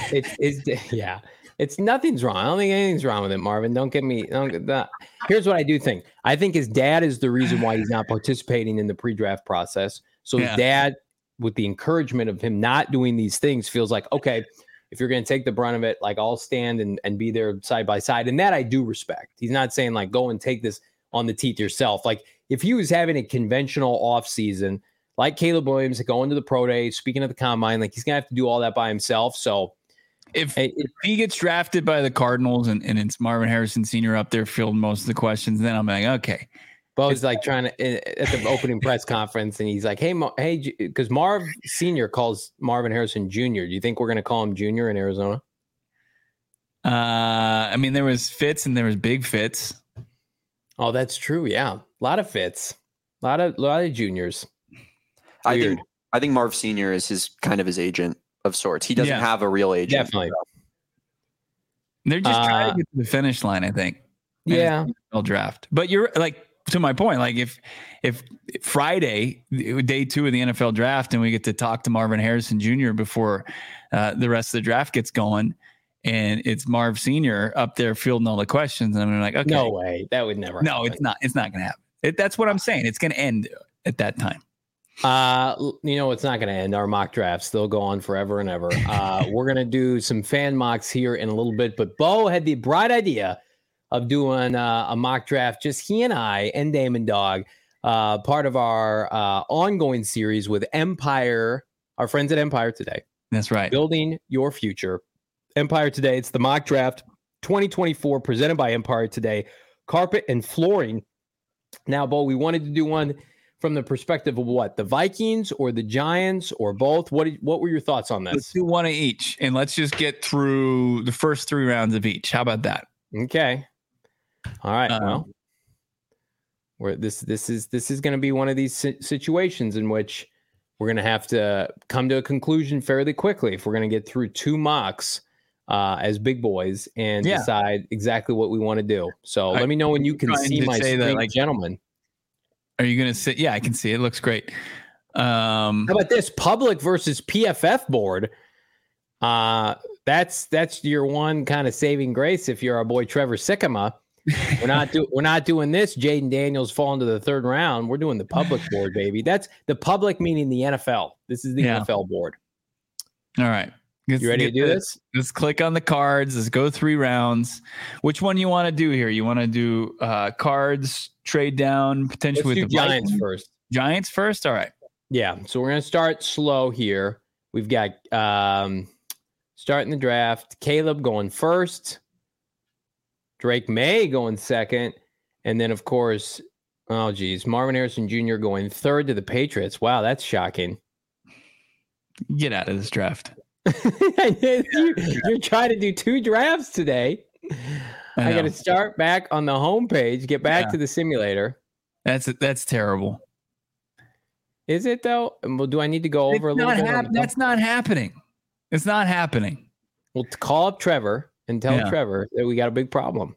it's nothing's wrong. I don't think anything's wrong with it, Marvin. Here's what I do think. I think his dad is the reason why he's not participating in the pre-draft process. So his dad, with the encouragement of him not doing these things, feels like, okay, if you're going to take the brunt of it, like, I'll stand and be there side by side. And that I do respect. He's not saying, like, go and take this on the teeth yourself. Like, if he was having a conventional off season, like Caleb Williams, going to the pro day, speaking at the combine, like, he's going to have to do all that by himself. So if he gets drafted by the Cardinals and it's Marvin Harrison Sr. up there fielding most of the questions, then I'm like, okay. Bo's like trying to, at the opening press conference, and he's like, hey, because Marv Sr. calls Marvin Harrison Jr. Do you think we're going to call him Jr. in Arizona? I mean, there was Fitz and there was Big Fitz. Oh, that's true. Yeah. A lot of Fitz, a lot of juniors. I think Marv Sr. is his agent of sorts. He doesn't have a real agent. Definitely. They're just trying to get to the finish line, I think. Yeah. They'll draft. But you're like, to my point, like if Friday, day 2 of the NFL draft, and we get to talk to Marvin Harrison Jr. before the rest of the draft gets going, and it's Marv Sr. up there fielding all the questions, and I'm like, okay. No way. That would never happen. It's not going to happen. That's what I'm saying. It's going to end at that time. It's not going to end. Our mock drafts, they'll go on forever and ever. We're going to do some fan mocks here in a little bit, but Bo had the bright idea of doing a mock draft, just he and I and Damon Dog, part of our ongoing series with Empire, our friends at Empire today. That's right. Building your future. Empire Today. It's the mock draft 2024 presented by Empire Today. Carpet and flooring. Now, Bo, we wanted to do one from the perspective of what? The Vikings or the Giants or both? What were your thoughts on this? Let's do one of each, and let's just get through the first 3 rounds of each. How about that? Okay. All right. Well, this is going to be one of these situations in which we're going to have to come to a conclusion fairly quickly if we're going to get through 2 mocks as big boys and decide exactly what we want to do. So let me know when you can see my screen, gentlemen. Are you going to sit? Yeah, I can see it. It looks great. How about this public versus PFF board? That's your one kind of saving grace if you're our boy Trevor Sikkema. We're not doing this. Jaden Daniels falling to the 3rd round. We're doing the public board, baby. That's the public meaning the NFL. This is the NFL board. All right. You ready to do this? Let's click on the cards. Let's go 3 rounds. Which one you want to do here? You want to do cards, trade down, potentially with the Giants first. Giants first? All right. Yeah. So we're going to start slow here. We've got starting the draft. Caleb going first. Drake May going second. And then, of course, Marvin Harrison Jr. going 3rd to the Patriots. Wow, that's shocking. Get out of this draft. You're trying to do 2 drafts today. I got to start back on the homepage, get back to the simulator. That's terrible. Is it though? Well, do I need to go over a little bit? That's not happening. It's not happening. Well, call up Trevor and tell Trevor that we got a big problem.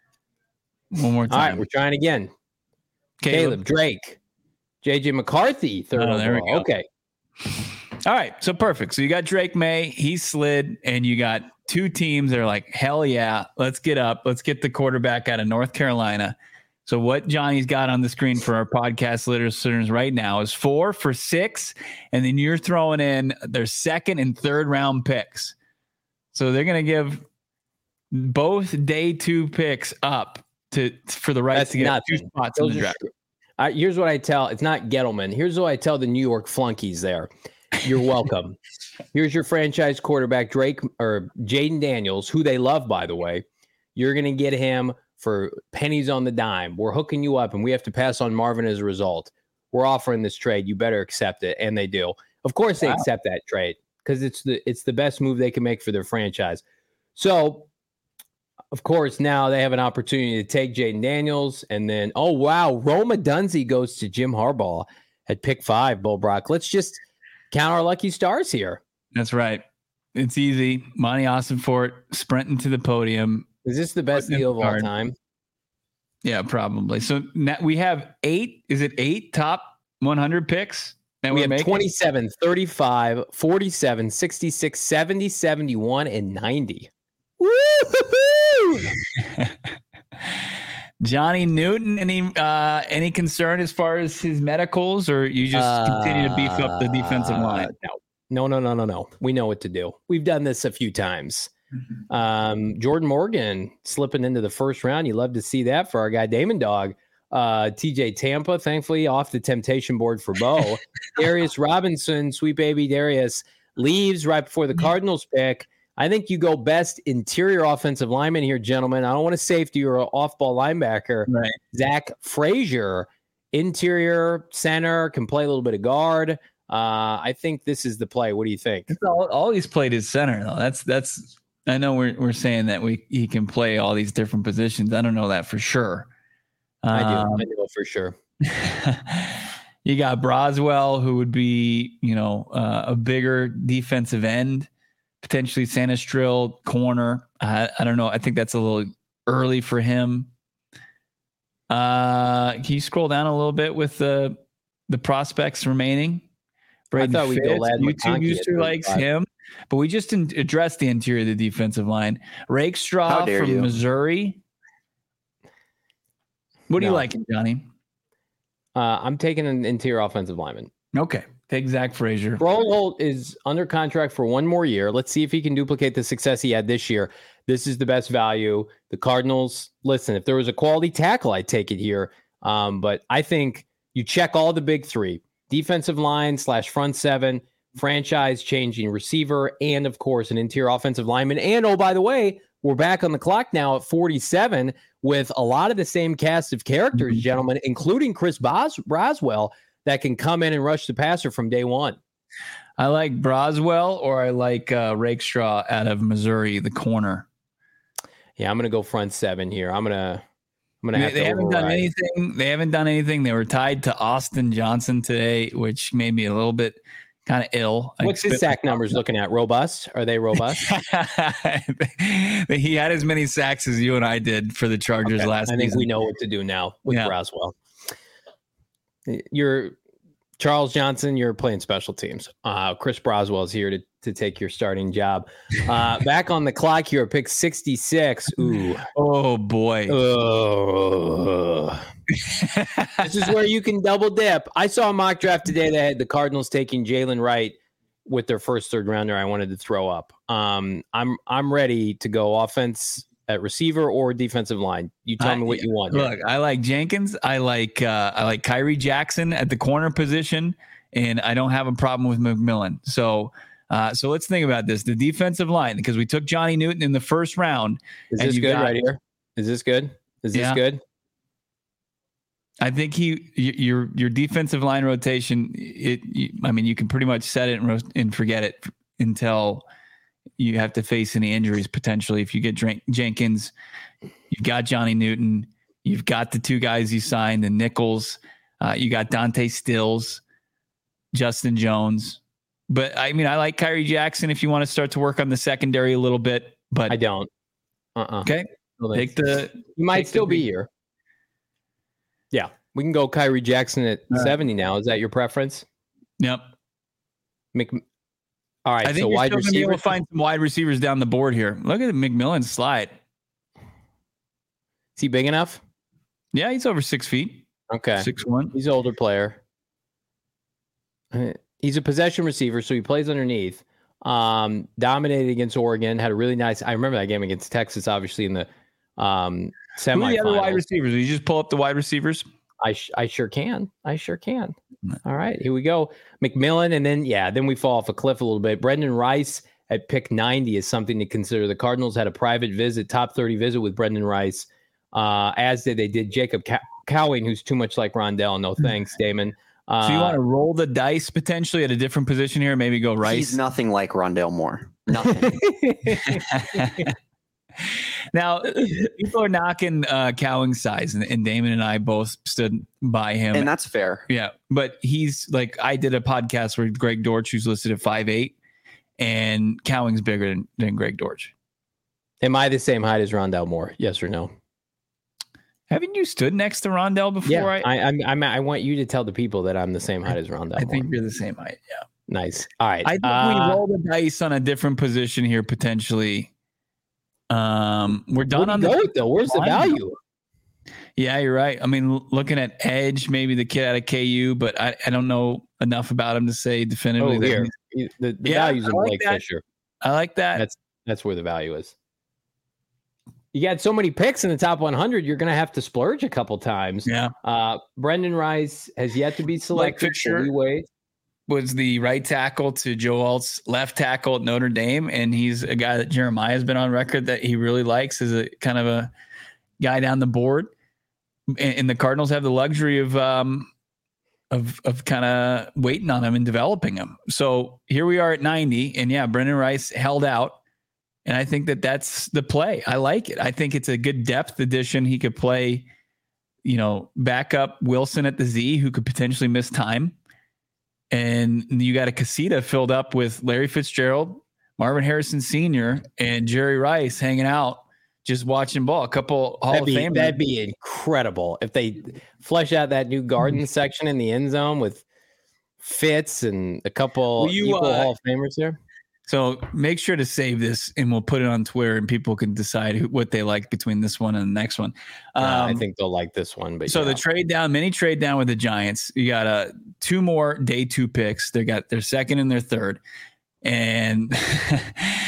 One more time. All right, we're trying again. Caleb Drake, JJ McCarthy, 3rd overall. There we go. Okay. All right, so perfect. So you got Drake May, he slid, and you got 2 teams that are like, hell yeah, let's get up. Let's get the quarterback out of North Carolina. So what Johnny's got on the screen for our podcast listeners right now is 4 for 6, and then you're throwing in their 2nd and 3rd round picks. So they're going to give both day 2 picks up for the rights to get 2 spots in the draft. Here's what I tell. It's not Gettleman. Here's what I tell the New York flunkies there. You're welcome. Here's your franchise quarterback, Drake or Jaden Daniels, who they love, by the way. You're going to get him for pennies on the dime. We're hooking you up, and we have to pass on Marvin as a result. We're offering this trade. You better accept it, and they do. Of course, they accept that trade because it's the best move they can make for their franchise. So, of course, now they have an opportunity to take Jaden Daniels, and then Roma Dunze goes to Jim Harbaugh at pick 5. Bull Brock. Let's just count our lucky stars here. That's right. It's easy. Monty Ossenfort sprinting to the podium. Is this the best deal of all time? Yeah, probably. So now we have 8. Is it 8 top 100 picks? And we have 27, 35, 47, 66, 70, 71, and 90. Woo-hoo-hoo! Johnny Newton, any concern as far as his medicals, or you just continue to beef up the defensive line? No. We know what to do. We've done this a few times. Jordan Morgan slipping into the 1st round. You love to see that for our guy Damon Dog. TJ Tampa, thankfully, off the temptation board for Bo. Darius Robinson, sweet baby Darius, leaves right before the Cardinals pick. I think you go best interior offensive lineman here, gentlemen. I don't want a safety or an off-ball linebacker. Right. Zach Frazier, interior center, can play a little bit of guard. I think this is the play. What do you think? All he's played is center, though. That's. I know we're saying that he can play all these different positions. I don't know that for sure. I do for sure. You got Braswell, who would be, a bigger defensive end, potentially Sanastrill corner. I don't know. I think that's a little early for him. Can you scroll down a little bit with the prospects remaining? Braden I thought we'd go YouTube user likes him, but we just addressed the interior of the defensive line. Rakestraw from Missouri. What do you like, Johnny? I'm taking an interior offensive lineman. Okay. Take Zach Frazier. Broholt is under contract for 1 more year. Let's see if he can duplicate the success he had this year. This is the best value. The Cardinals, listen, if there was a quality tackle, I'd take it here. But I think you check all the big 3. Defensive line / front 7, franchise-changing receiver, and, of course, an interior offensive lineman. And, oh, by the way, we're back on the clock now at 47 with a lot of the same cast of characters, gentlemen, including Chris Braswell, that can come in and rush the passer from day one. I like Braswell, or I like Rakestraw out of Missouri, the corner. Yeah, I'm going to go front seven here. I'm gonna have they to haven't override. done anything. They haven't done anything. They were tied to Austin Johnson today, which made me a little bit kind of ill. What's his sack numbers looking at? Robust? Are they robust? He had as many sacks as you and I did for the Chargers last season. I think we know what to do now with Braswell. You're Charles Johnson. You're playing special teams. Chris Braswell is here to take your starting job. Back on the clock here, pick 66. Ooh. Oh boy. This is where you can double dip. I saw a mock draft today that had the Cardinals taking Jalen Wright with their first third rounder. I wanted to throw up. I'm ready to go offense at receiver or defensive line. You tell me what you want. Look, I like Jenkins. I like Kyrie Jackson at the corner position, and I don't have a problem with McMillan. So let's think about this. The defensive line, because we took Johnny Newton in the first round. Is this good right here? Is this good? Is this good? I think your defensive line rotation. You can pretty much set it and forget it until you have to face any injuries potentially. If you get Jenkins, you've got Johnny Newton, you've got the two guys you signed, the Nichols, you got Dante Stills, Justin Jones. But I like Kyrie Jackson if you want to start to work on the secondary a little bit. But I don't. Okay, you might still be here. Yeah, we can go Kyrie Jackson at 70 now. Is that your preference? Yep. All right, I think so you're wide still going to be able to receivers. find some wide receivers down the board here. Look at McMillan slide. Is he big enough? Yeah, he's over 6 feet. Okay. 6'1". He's an older player. He's a possession receiver, so he plays underneath. Dominated against Oregon. Had a really nice. I remember that game against Texas, obviously in the semifinals. Who are the other wide receivers? Will you just pull up the wide receivers? I sure can. All right, here we go. McMillan, and then we fall off a cliff a little bit. Brendan Rice at pick 90 is something to consider. The Cardinals had a private visit, top 30 visit with Brendan Rice, as they did Jacob Cowing, who's too much like Rondell. No thanks, Damon. So you want to roll the dice potentially at a different position here? Maybe go Rice. He's nothing like Rondell Moore. Nothing. Now, people are knocking Cowing's size, and Damon and I both stood by him. And that's fair. Yeah. But he's like, I did a podcast with Greg Dortch, who's listed at 5'8", and Cowing's bigger than Greg Dortch. Am I the same height as Rondell Moore? Yes or no? Haven't you stood next to Rondell before? Yeah, I want you to tell the people that I'm the same height as Rondell. I think you're the same height. Yeah. Nice. All right. I think we roll the dice on a different position here potentially. We're done on though. Where's the value? Yeah, you're right. I mean, looking at Edge, maybe the kid out of KU, but I don't know enough about him to say definitively. The value's in Blake Fisher. I like that. That's where the value is. You got so many picks in the top 100, you're going to have to splurge a couple times. Yeah. Brendan Rice has yet to be selected. Blake Fisher was the right tackle to Joe Alt's left tackle at Notre Dame, and he's a guy that Jeremiah has been on record that he really likes as a kind of a guy down the board. And the Cardinals have the luxury of kind of waiting on him and developing him. So here we are at 90, and Brendan Rice held out. And I think that's the play. I like it. I think it's a good depth addition. He could play, back up Wilson at the Z, who could potentially miss time. And you got a casita filled up with Larry Fitzgerald, Marvin Harrison Sr., and Jerry Rice hanging out, just watching ball. A couple Hall of Famers. That'd be incredible if they flesh out that new garden section in the end zone with Fitz and a couple Hall of Famers there. So make sure to save this, and we'll put it on Twitter, and people can decide what they like between this one and the next one. I think they'll like this one. But the mini trade down with the Giants. You got two more day 2 picks. They got their second and their third, and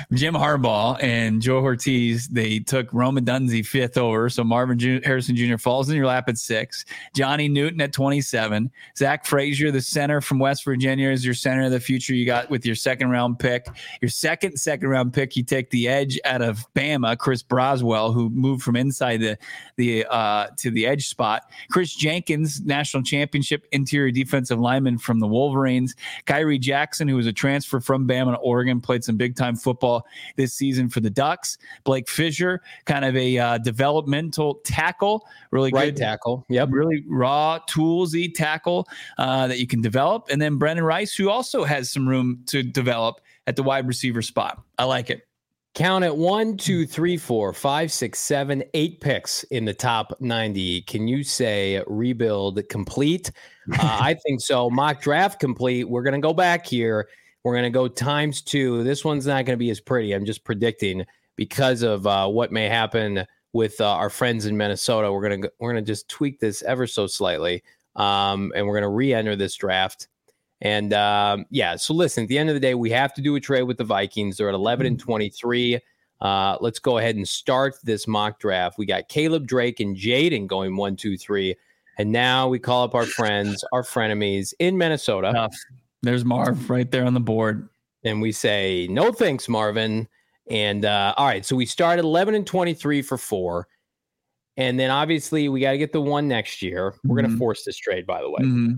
Jim Harbaugh and Joe Ortiz, they took Rome Odunze 5th over. So Harrison Jr. falls in your lap at 6. Johnny Newton at 27. Zach Frazier, the center from West Virginia, is your center of the future. You got with your second round pick. Your second round pick, you take the edge out of Bama, Chris Braswell, who moved from inside to the edge spot. Chris Jenkins, national championship interior defensive lineman from the Wolverines. Kyrie Jackson, who was a transfer from Bama to Oregon, played some big time football this season for the Ducks. Blake Fisher, kind of a developmental tackle, really right good tackle. Yep. Really raw, toolsy tackle that you can develop. And then Brendan Rice, who also has some room to develop at the wide receiver spot. I like it. Count it 1, 2, 3, 4, 5, 6, 7, 8 picks in the top 90. Can you say rebuild complete? I think so. Mock draft complete. We're going to go back here. We're going to go ×2. This one's not going to be as pretty. I'm just predicting because of what may happen with our friends in Minnesota. We're going to just tweak this ever so slightly, and we're going to re-enter this draft. And so listen, at the end of the day, we have to do a trade with the Vikings. They're at 11-23. Let's go ahead and start this mock draft. We got Caleb, Drake, and Jaden going 1, 2, 3. And now we call up our friends, our frenemies in Minnesota. There's Marv right there on the board. And we say, no thanks, Marvin. And all right, so we start at 11-23 for 4. And then obviously we got to get the 1 next year. We're going to force this trade, by the way. Mm-hmm.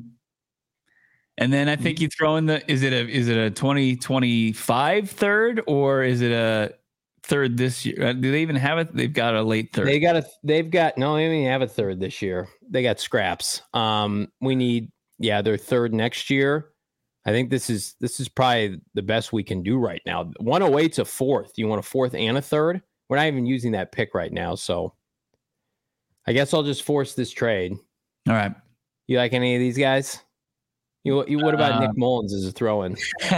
And then I think you throw in is it a 2025 third or is it a third this year? Do they even have it? They've got a late third. They don't even have a third this year. They got scraps. We need their third next year. I think this is probably the best we can do right now. 108's a fourth. You want a fourth and a third? We're not even using that pick right now, so I guess I'll just force this trade. All right. You like any of these guys? You what about Nick Mullins as a throw-in?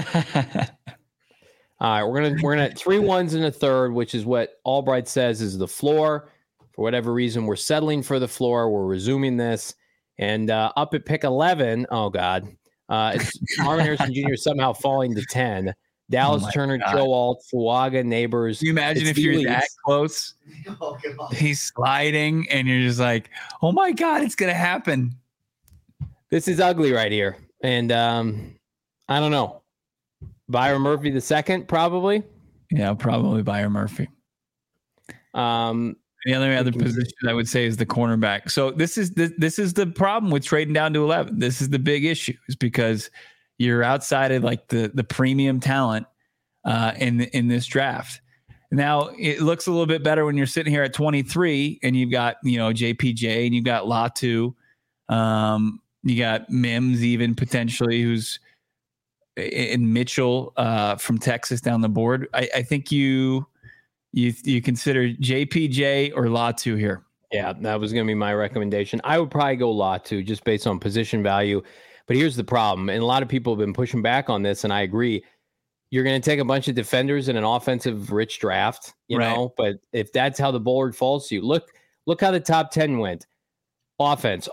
All right, we're gonna 3 1s and a third, which is what Albright says is the floor. For whatever reason, we're settling for the floor. We're resuming this, and up at pick 11. Oh God, it's Marvin Harrison Jr. somehow falling to 10. Dallas Turner, God. Joe Alt, Fuaga, Neighbors. Can you imagine if you're that close? Oh, he's sliding, and you're just like, oh my God, it's gonna happen. This is ugly right here. And I don't know. Byron Murphy the second, probably. Yeah, probably Byron Murphy. The other position I would say is the cornerback. So this is the problem with trading down to 11. This is the big issue, is because you're outside of like the premium talent in this draft. Now it looks a little bit better when you're sitting here at 23 and you've got JPJ and you've got Latu. You got Mims even potentially, who's in Mitchell from Texas down the board. I think you consider JPJ or Latu here. Yeah, that was going to be my recommendation. I would probably go Latu just based on position value. But here's the problem, and a lot of people have been pushing back on this, and I agree. You're going to take a bunch of defenders in an offensive-rich draft, you know. But if that's how the board falls to you, look how the top 10 went. Offense,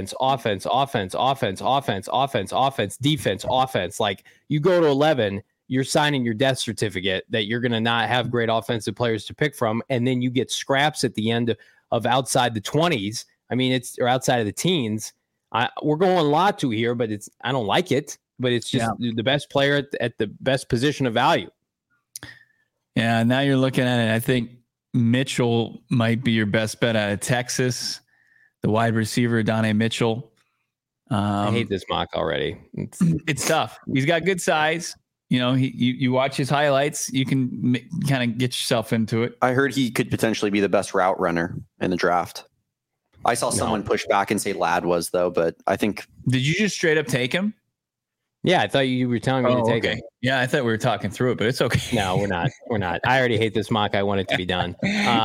defense, offense. Like, you go to 11, you're signing your death certificate that you're going to not have great offensive players to pick from, and then you get scraps at the end of outside the 20s. I mean, or outside of the teens. We're going Latu here, but I don't like it. But it's just the best player at the best position of value. Yeah, now you're looking at it. I think Mitchell might be your best bet out of Texas. The wide receiver, Donnie Mitchell. I hate this mock already. It's tough. He's got good size. You watch his highlights, you can kind of get yourself into it. I heard he could potentially be the best route runner in the draft. I saw someone push back and say Ladd was, though, but I think. Did you just straight up take him? Yeah, I thought you were telling me to take him. Yeah, I thought we were talking through it, but it's okay. No, we're not. We're not. I already hate this mock. I want it to be done.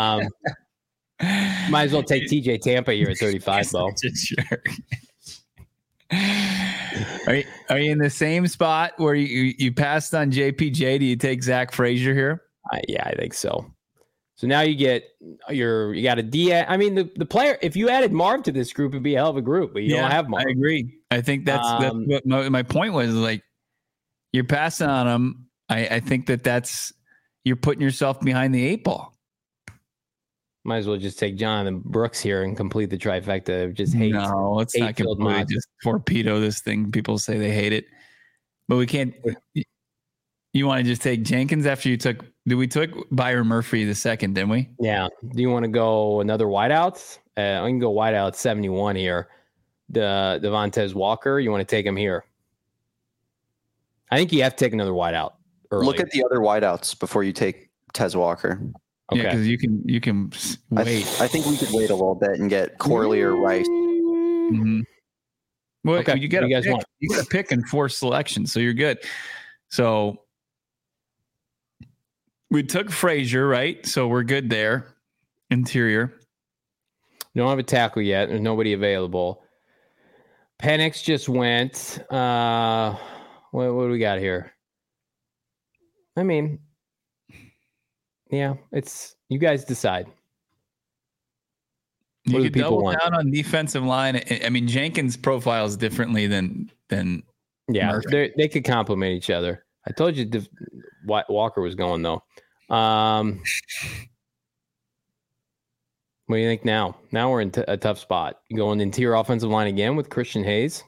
Might as well take TJ Tampa here at 35, Bo. Sure. Are you in the same spot where you passed on JPJ? Do you take Zach Frazier here? Yeah, I think so. So now you got a D. I mean, the player. If you added Marv to this group, it'd be a hell of a group. But you don't have Marv. I agree. I think that's what my point was. Like, you're passing on him. I think that's you're putting yourself behind the 8 ball. Might as well just take Jonathan Brooks here and complete the trifecta. Just hate. No, let's not completely just torpedo this thing. People say they hate it, but we can't. You want to just take Jenkins after you took? We took Byron Murphy the second, didn't we? Yeah. Do you want to go another wideout? I can go wideout 71 here. The Devontae Walker. You want to take him here? I think you have to take another wideout early. Look at the other wideouts before you take Tez Walker. Okay. Yeah, because you can wait. I think we could wait a little bit and get Corley or Rice. Mm-hmm. Well, okay. You got to pick in 4 selections, so you're good. So we took Frazier, right? So we're good there. Interior. Don't have a tackle yet. There's nobody available. Penix just went. What do we got here? I mean, yeah, it's you guys decide. You could double down on defensive line. I mean, Jenkins profiles differently than yeah. They could complement each other. I told you Walker was going though. What do you think now? Now we're in a tough spot. You going interior offensive line again with Christian Hayes?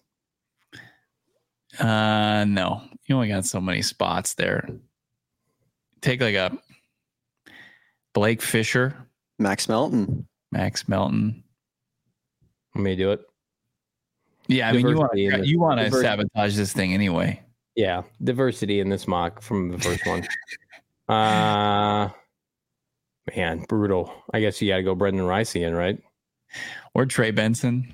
No. You only got so many spots there. Take like a Blake Fisher. Max Melton. Want me to do it? Yeah, I mean, you want to sabotage this thing anyway. Yeah, diversity in this mock from the first one. Man, brutal. I guess you got to go Brendan Rice in, right? Or Trey Benson.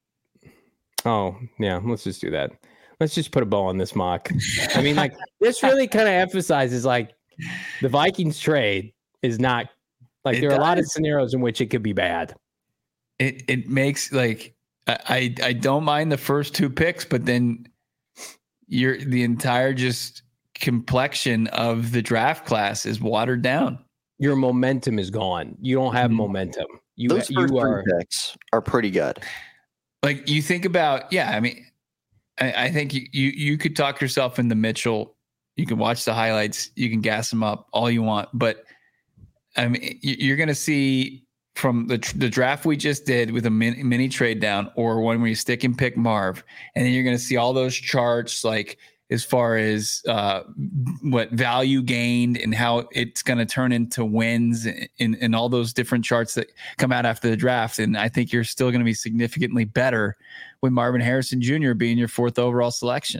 Oh, yeah, let's just do that. Let's just put a bow on this mock. I mean, like, this really kind of emphasizes, like, the Vikings trade is not, like, there are a lot of scenarios in which it could be bad. It makes, like, I don't mind the first 2 picks, but then the entire just complexion of the draft class is watered down. Your momentum is gone. You don't have momentum. Those first 3 picks are pretty good. Like, you think about, I mean, I think you could talk yourself into Mitchell. You can watch the highlights. You can gas him up all you want. But, I mean, you're going to see from the draft we just did with a mini trade down or one where you stick and pick Marv. And then you're going to see all those charts, like, as far as what value gained and how it's going to turn into wins in all those different charts that come out after the draft. And I think you're still going to be significantly better with Marvin Harrison Jr. being your 4th overall selection.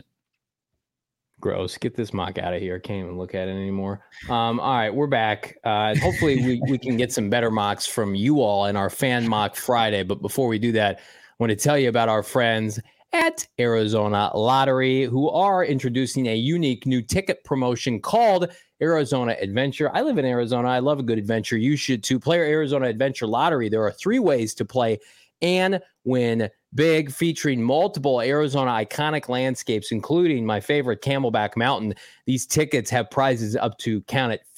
Gross. Get this mock out of here. Can't even look at it anymore. All right, we're back. Hopefully we can get some better mocks from you all in our Fan Mock Friday. But before we do that, I want to tell you about our friends at Arizona Lottery, who are introducing a unique new ticket promotion called Arizona Adventure. I live in Arizona. I love a good adventure. You should too. Play Arizona Adventure Lottery. There are 3 ways to play and win big, featuring multiple Arizona iconic landscapes, including my favorite Camelback Mountain. These tickets have prizes up to, count it,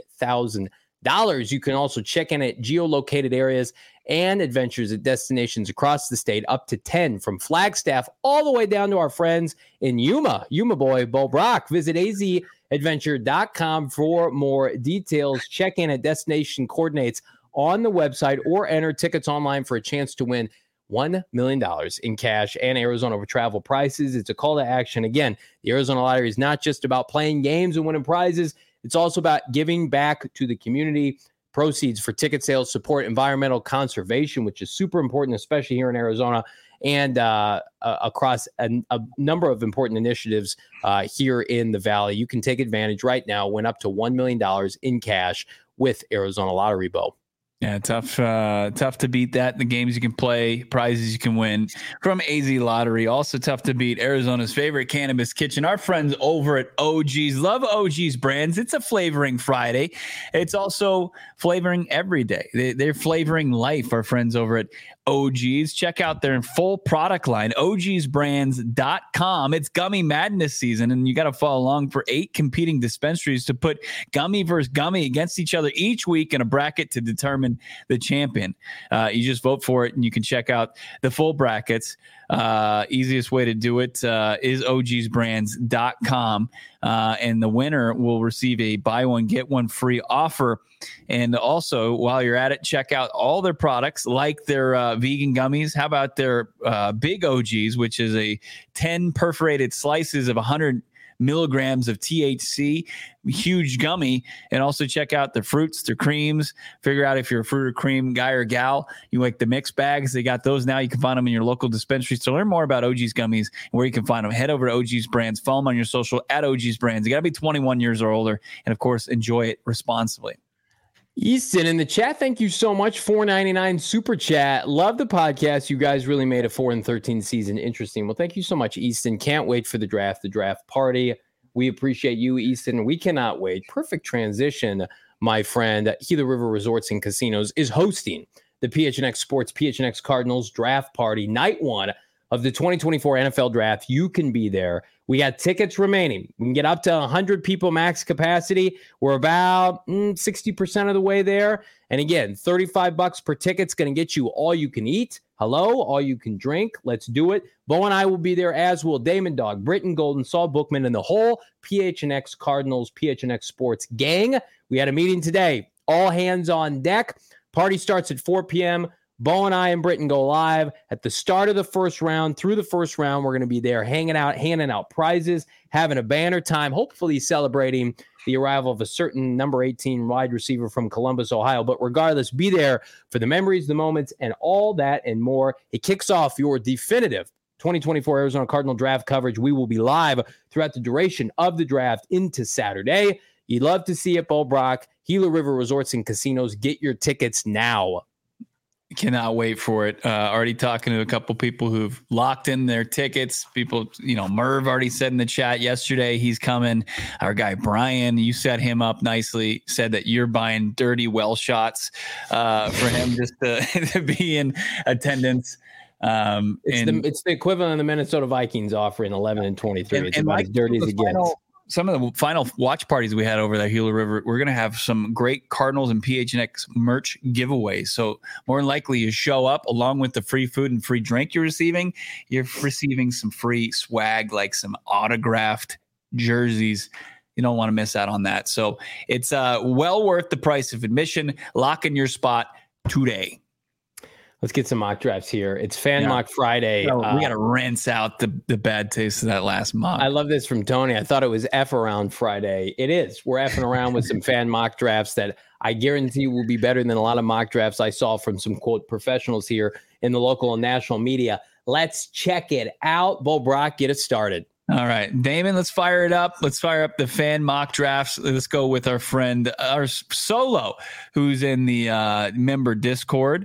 $50,000. You can also check in at geolocated areas and adventures at destinations across the state, up to 10, from Flagstaff all the way down to our friends in Yuma boy, Bo Brock. Visit azadventure.com for more details. Check in at destination coordinates on the website or enter tickets online for a chance to win $1 million in cash and Arizona travel prices. It's a call to action. Again, the Arizona Lottery is not just about playing games and winning prizes. It's also about giving back to the community. Proceeds for ticket sales support environmental conservation, which is super important, especially here in Arizona, and across a number of important initiatives here in the Valley. You can take advantage right now, win up to $1 million in cash with Arizona Lottery, Bo. Yeah, tough to beat that. The games you can play, prizes you can win from AZ Lottery. Also tough to beat Arizona's favorite cannabis kitchen. Our friends over at OG's. Love OG's brands. It's a flavoring Friday. It's also flavoring every day. They're flavoring life. Our friends over at OG's. Check out their full product line, ogsbrands.com. It's Gummy Madness season, and you got to follow along for 8 competing dispensaries to put gummy versus gummy against each other each week in a bracket to determine determine the champion. You just vote for it, and you can check out the full brackets. Easiest way to do it is ogsbrands.com. And the winner will receive a buy one, get one free offer. And also, while you're at it, check out all their products, like their vegan gummies. How about their Big OGs, which is a 10 perforated slices of 100 milligrams of THC, huge gummy. And also check out their fruits, their creams. Figure out if you're a fruit or cream guy or gal. You like the mixed bags. They got those now. You can find them in your local dispensaries. To learn more about OG's gummies and where you can find them, head over to OG's Brands. Follow them on your social at OG's Brands. You got to be 21 years or older. And of course, enjoy it responsibly. Easton in the chat, thank you so much. $4.99 super chat. Love the podcast. You guys really made a 4-13 season interesting. Well, thank you so much, Easton. Can't wait for the draft party. We appreciate you, Easton. We cannot wait. Perfect transition, my friend. Gila River Resorts and Casinos is hosting the PHNX Sports PHNX Cardinals draft party, night one of the 2024 NFL draft. You can be there. We got tickets remaining. We can get up to 100 people max capacity. We're about 60% of the way there. And again, $35 per ticket's going to get you all you can eat. Hello, all you can drink. Let's do it. Bo and I will be there, as will Damon Dog, Britton Golden, Saul Bookman, and the whole PHNX Cardinals, PHNX Sports gang. We had a meeting today. All hands on deck. Party starts at 4 p.m. Bo and I and Britton go live at the start of the first round. Through the first round, we're going to be there hanging out, handing out prizes, having a banner time, hopefully celebrating the arrival of a certain number 18 wide receiver from Columbus, Ohio. But regardless, be there for the memories, the moments, and all that and more. It kicks off your definitive 2024 Arizona Cardinal draft coverage. We will be live throughout the duration of the draft into Saturday. You'd love to see it, Bo Brock. Gila River Resorts and Casinos. Get your tickets now. Cannot wait for it. Already talking to a couple people who've locked in their tickets. People, Merv already said in the chat yesterday he's coming. Our guy Brian, you set him up nicely, said that you're buying dirty well shots for him just to be in attendance. It's the equivalent of the Minnesota Vikings offering 11 and 23. It's about as dirty as it gets. Some of the final watch parties we had over at Gila River, we're going to have some great Cardinals and PHNX merch giveaways. So more than likely you show up along with the free food and free drink you're receiving some free swag, like some autographed jerseys. You don't want to miss out on that. So it's well worth the price of admission. Lock in your spot today. Let's get some mock drafts here. It's Fan Mock Friday. We got to rinse out the bad taste of that last mock. I love this from Tony. I thought it was F around Friday. It is. We're effing around with some fan mock drafts that I guarantee will be better than a lot of mock drafts I saw from some, quote, professionals here in the local and national media. Let's check it out. Bo Brock, get it started. All right, Damon, let's fire it up. Let's fire up the fan mock drafts. Let's go with our friend, our Solo, who's in the member Discord,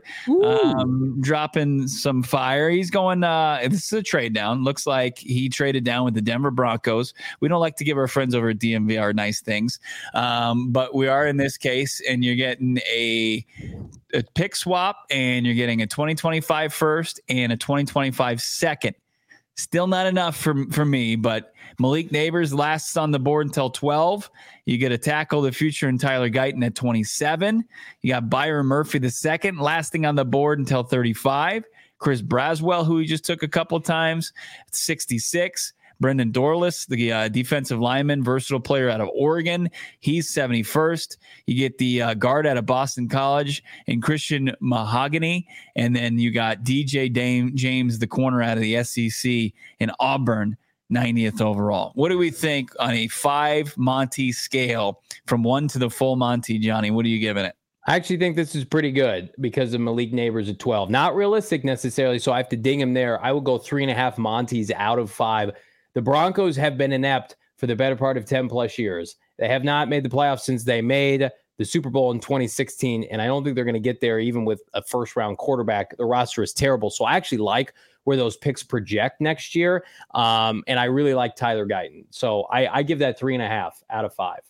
dropping some fire. He's going, this is a trade down. Looks like he traded down with the Denver Broncos. We don't like to give our friends over at DMV our nice things, but we are in this case, and you're getting a pick swap, and you're getting a 2025 first and a 2025 second. Still not enough for me, but Malik Neighbors lasts on the board until 12. You get a tackle of the future in Tyler Guyton at 27. You got Byron Murphy the second lasting on the board until 35. Chris Braswell, who we just took a couple of times, at 66. Brendan Dorless, the defensive lineman, versatile player out of Oregon. He's 71st. You get the guard out of Boston College and Christian Mahogany. And then you got DJ James, the corner out of the SEC in Auburn, 90th overall. What do we think on a 5 Monty scale from 1 to the full Monty, Johnny? What are you giving it? I actually think this is pretty good because of Malik Neighbors at 12. Not realistic necessarily, so I have to ding him there. I will go 3.5 Monties out of 5. The Broncos have been inept for the better part of 10 plus years. They have not made the playoffs since they made the Super Bowl in 2016, and I don't think they're going to get there even with a first-round quarterback. The roster is terrible, so I actually like where those picks project next year, and I really like Tyler Guyton. So I give that 3.5 out of 5.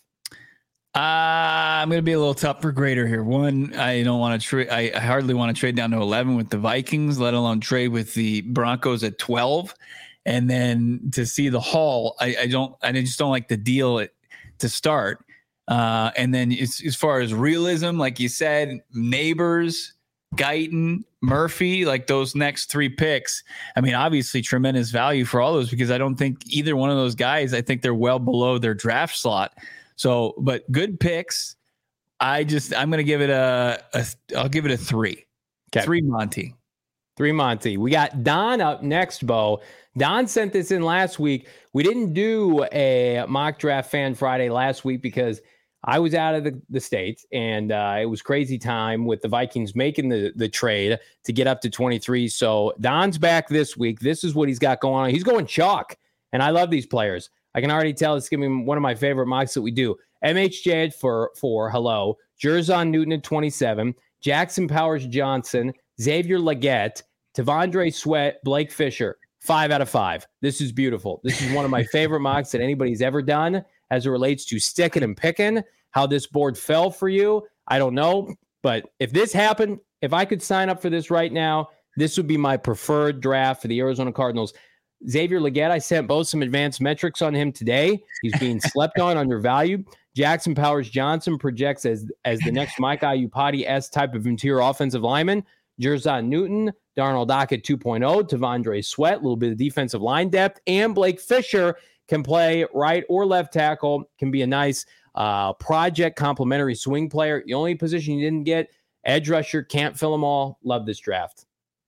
I'm going to be a little tougher grader here. One, I don't want to trade. I hardly want to trade down to 11 with the Vikings, let alone trade with the Broncos at 12. And then to see the haul, I just don't like the deal to start. And then as far as realism, like you said, Neighbors, Guyton, Murphy, like those next 3 picks. I mean, obviously tremendous value for all those because I don't think either one of those guys, I think they're well below their draft slot. So, but good picks. I'm going to give it I'll give it a 3. Okay. 3 Monty. 3 Monty. We got Don up next, Bo. Don sent this in last week. We didn't do a mock draft fan Friday last week because I was out of the States, and it was crazy time with the Vikings making the trade to get up to 23. So Don's back this week. This is what he's got going on. He's going chalk, and I love these players. I can already tell it's going to be one of my favorite mocks that we do. MHJ at 4, hello. Jerzon Newton at 27. Jackson Powers-Johnson, Xavier Legette, T'Vondre Sweat, Blake Fisher. 5 out of 5. This is beautiful. This is one of my favorite mocks that anybody's ever done as it relates to sticking and picking. How this board fell for you, I don't know. But if this happened, if I could sign up for this right now, this would be my preferred draft for the Arizona Cardinals. Xavier Legette, I sent both some advanced metrics on him today. He's being slept on, undervalued. Jackson Powers-Johnson projects as the next Mike Iupati-esque type of interior offensive lineman. Jerzon Newton, Darnell Dock at 2.0, T'Vondre Sweat, a little bit of defensive line depth, and Blake Fisher can play right or left tackle, can be a nice project complementary swing player. The only position you didn't get, edge rusher, can't fill them all. Love this draft.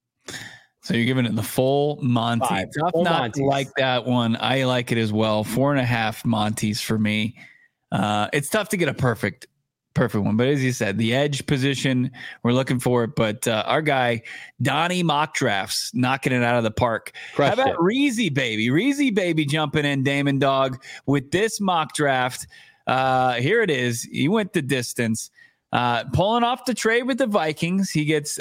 So you're giving it the full Monty. 5. Tough full not Monties. to like that one. I like it as well. 4.5 Monties for me. It's tough to get a perfect one, but as you said, the edge position, we're looking for it. But our guy Donnie Mock Drafts knocking it out of the park. Crushed How about Reezy Baby jumping in, Damon Dog, with this mock draft? Here it is. He went the distance. Pulling off the trade with the Vikings, he gets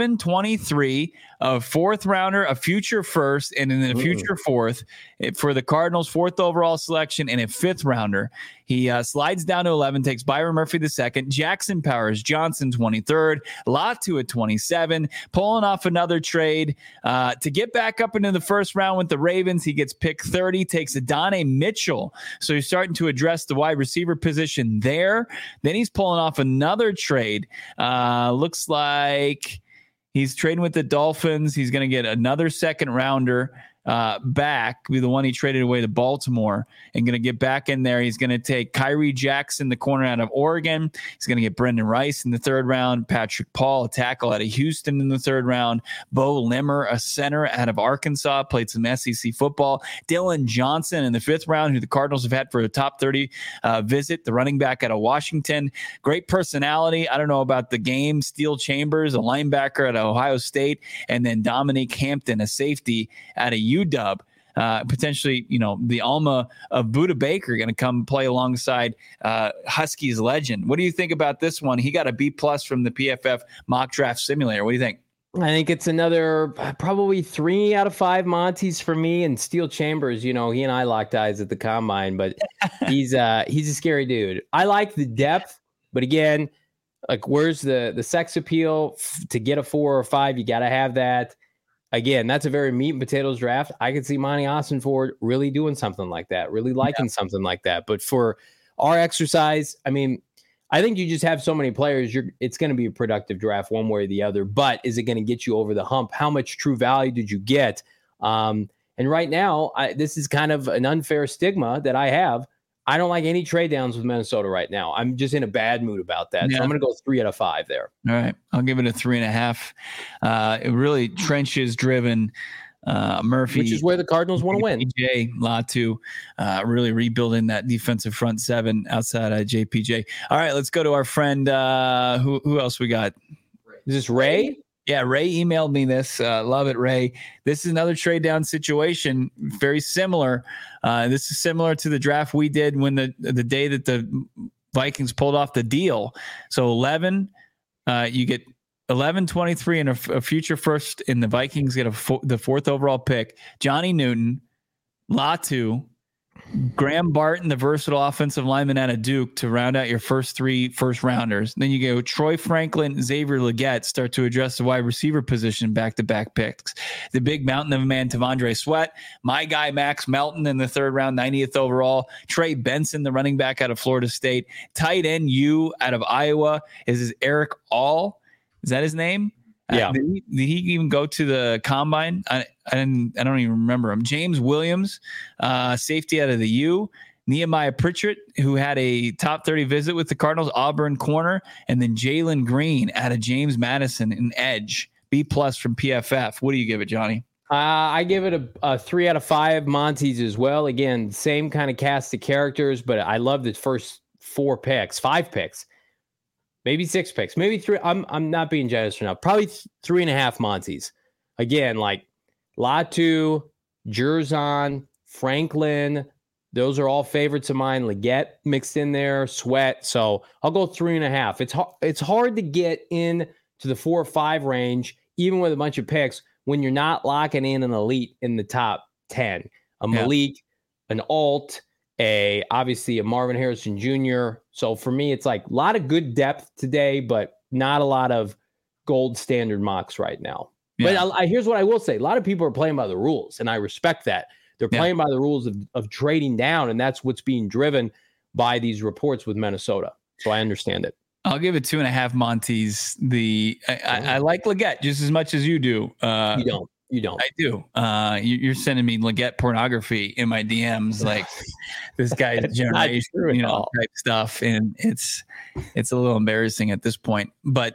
11-23, a 4th rounder, a future 1st, and then a future 4th for the Cardinals' 4th overall selection and a 5th rounder. He slides down to 11, takes Byron Murphy the 2nd, Jackson Powers-Johnson 23rd, Latu at 27, pulling off another trade to get back up into the 1st round with the Ravens. He gets pick 30, takes Adonai Mitchell. So he's starting to address the wide receiver position there. Then he's pulling off another trade. Looks like he's trading with the Dolphins. He's going to get another 2nd rounder back, be the one he traded away to Baltimore, and going to get back in there. He's going to take Kyrie Jackson, the corner out of Oregon. He's going to get Brendan Rice in the 3rd round, Patrick Paul, a tackle out of Houston in the 3rd round, Bo Limmer, a center out of Arkansas, played some SEC football, Dylan Johnson in the 5th round, who the Cardinals have had for a top 30 visit, the running back out of Washington. Great personality. I don't know about the game. Steel Chambers, a linebacker at Ohio State, and then Dominique Hampton, a safety out of UW. Potentially, the Alma of Buda Baker going to come play alongside Huskies legend. What do you think about this one? He got a B+ from the PFF mock draft simulator. What do you think? I think it's another probably 3 out of 5 Monties for me. And Steel Chambers, he and I locked eyes at the combine, but he's a scary dude. I like the depth, but again, like where's the sex appeal to get a 4 or 5? You got to have that. Again, that's a very meat and potatoes draft. I could see Monty Ossenford really doing something like that, really liking something like that. But for our exercise, I mean, I think you just have so many players. It's going to be a productive draft one way or the other. But is it going to get you over the hump? How much true value did you get? And right now, this is kind of an unfair stigma that I have. I don't like any trade downs with Minnesota right now. I'm just in a bad mood about that. Yeah. So I'm going to go 3 out of 5 there. All right. I'll give it a 3.5. It really trenches driven Murphy. Which is where the Cardinals want to win. JPJ, Latu, really rebuilding that defensive front 7 outside of JPJ. All right. Let's go to our friend. Who else we got? Is this Ray? Yeah, Ray emailed me this. Love it, Ray. This is another trade down situation, very similar. This is similar to the draft we did when the day that the Vikings pulled off the deal. So 11, you get 11, 23, and a future 1st, and the Vikings get the 4th overall pick. Johnny Newton, Latu, Graham Barton, the versatile offensive lineman out of Duke, to round out your first 3 first-rounders. Then you go Troy Franklin, Xavier Legette, start to address the wide receiver position, back-to-back picks. The big mountain of a man, T'Vondre Sweat. My guy, Max Melton, in the 3rd round, 90th overall. Trey Benson, the running back out of Florida State. Tight end U out of Iowa is Eric All. Is that his name? Yeah. Did he even go to the combine? I don't even remember him. James Williams, safety out of the U. Nehemiah Pritchett, who had a top 30 visit with the Cardinals, Auburn corner, and then Jalen Green out of James Madison, an edge, B+ from PFF. What do you give it, Johnny? I give it a 3 out of 5 Monties as well. Again, same kind of cast of characters, but I love the first 5 picks. Maybe 6 picks, maybe 3. I'm not being generous enough. Probably 3.5 Monties. Again, like Latu, Jerzon, Franklin. Those are all favorites of mine. Legette mixed in there, Sweat. So I'll go 3.5. It's hard to get in to the 4 or 5 range, even with a bunch of picks, when you're not locking in an elite in the top 10. A Malik, an Alt, obviously a Marvin Harrison Jr. So for me, it's like a lot of good depth today, but not a lot of gold standard mocks right now. Yeah. But here's what I will say. A lot of people are playing by the rules, and I respect that. They're playing by the rules of trading down, and that's what's being driven by these reports with Minnesota. So I understand it. I'll give it 2.5 Monties. I like Legette just as much as you do. You don't. I do. You're sending me Legette pornography in my DMs, like this guy's generation, type stuff, and it's a little embarrassing at this point. But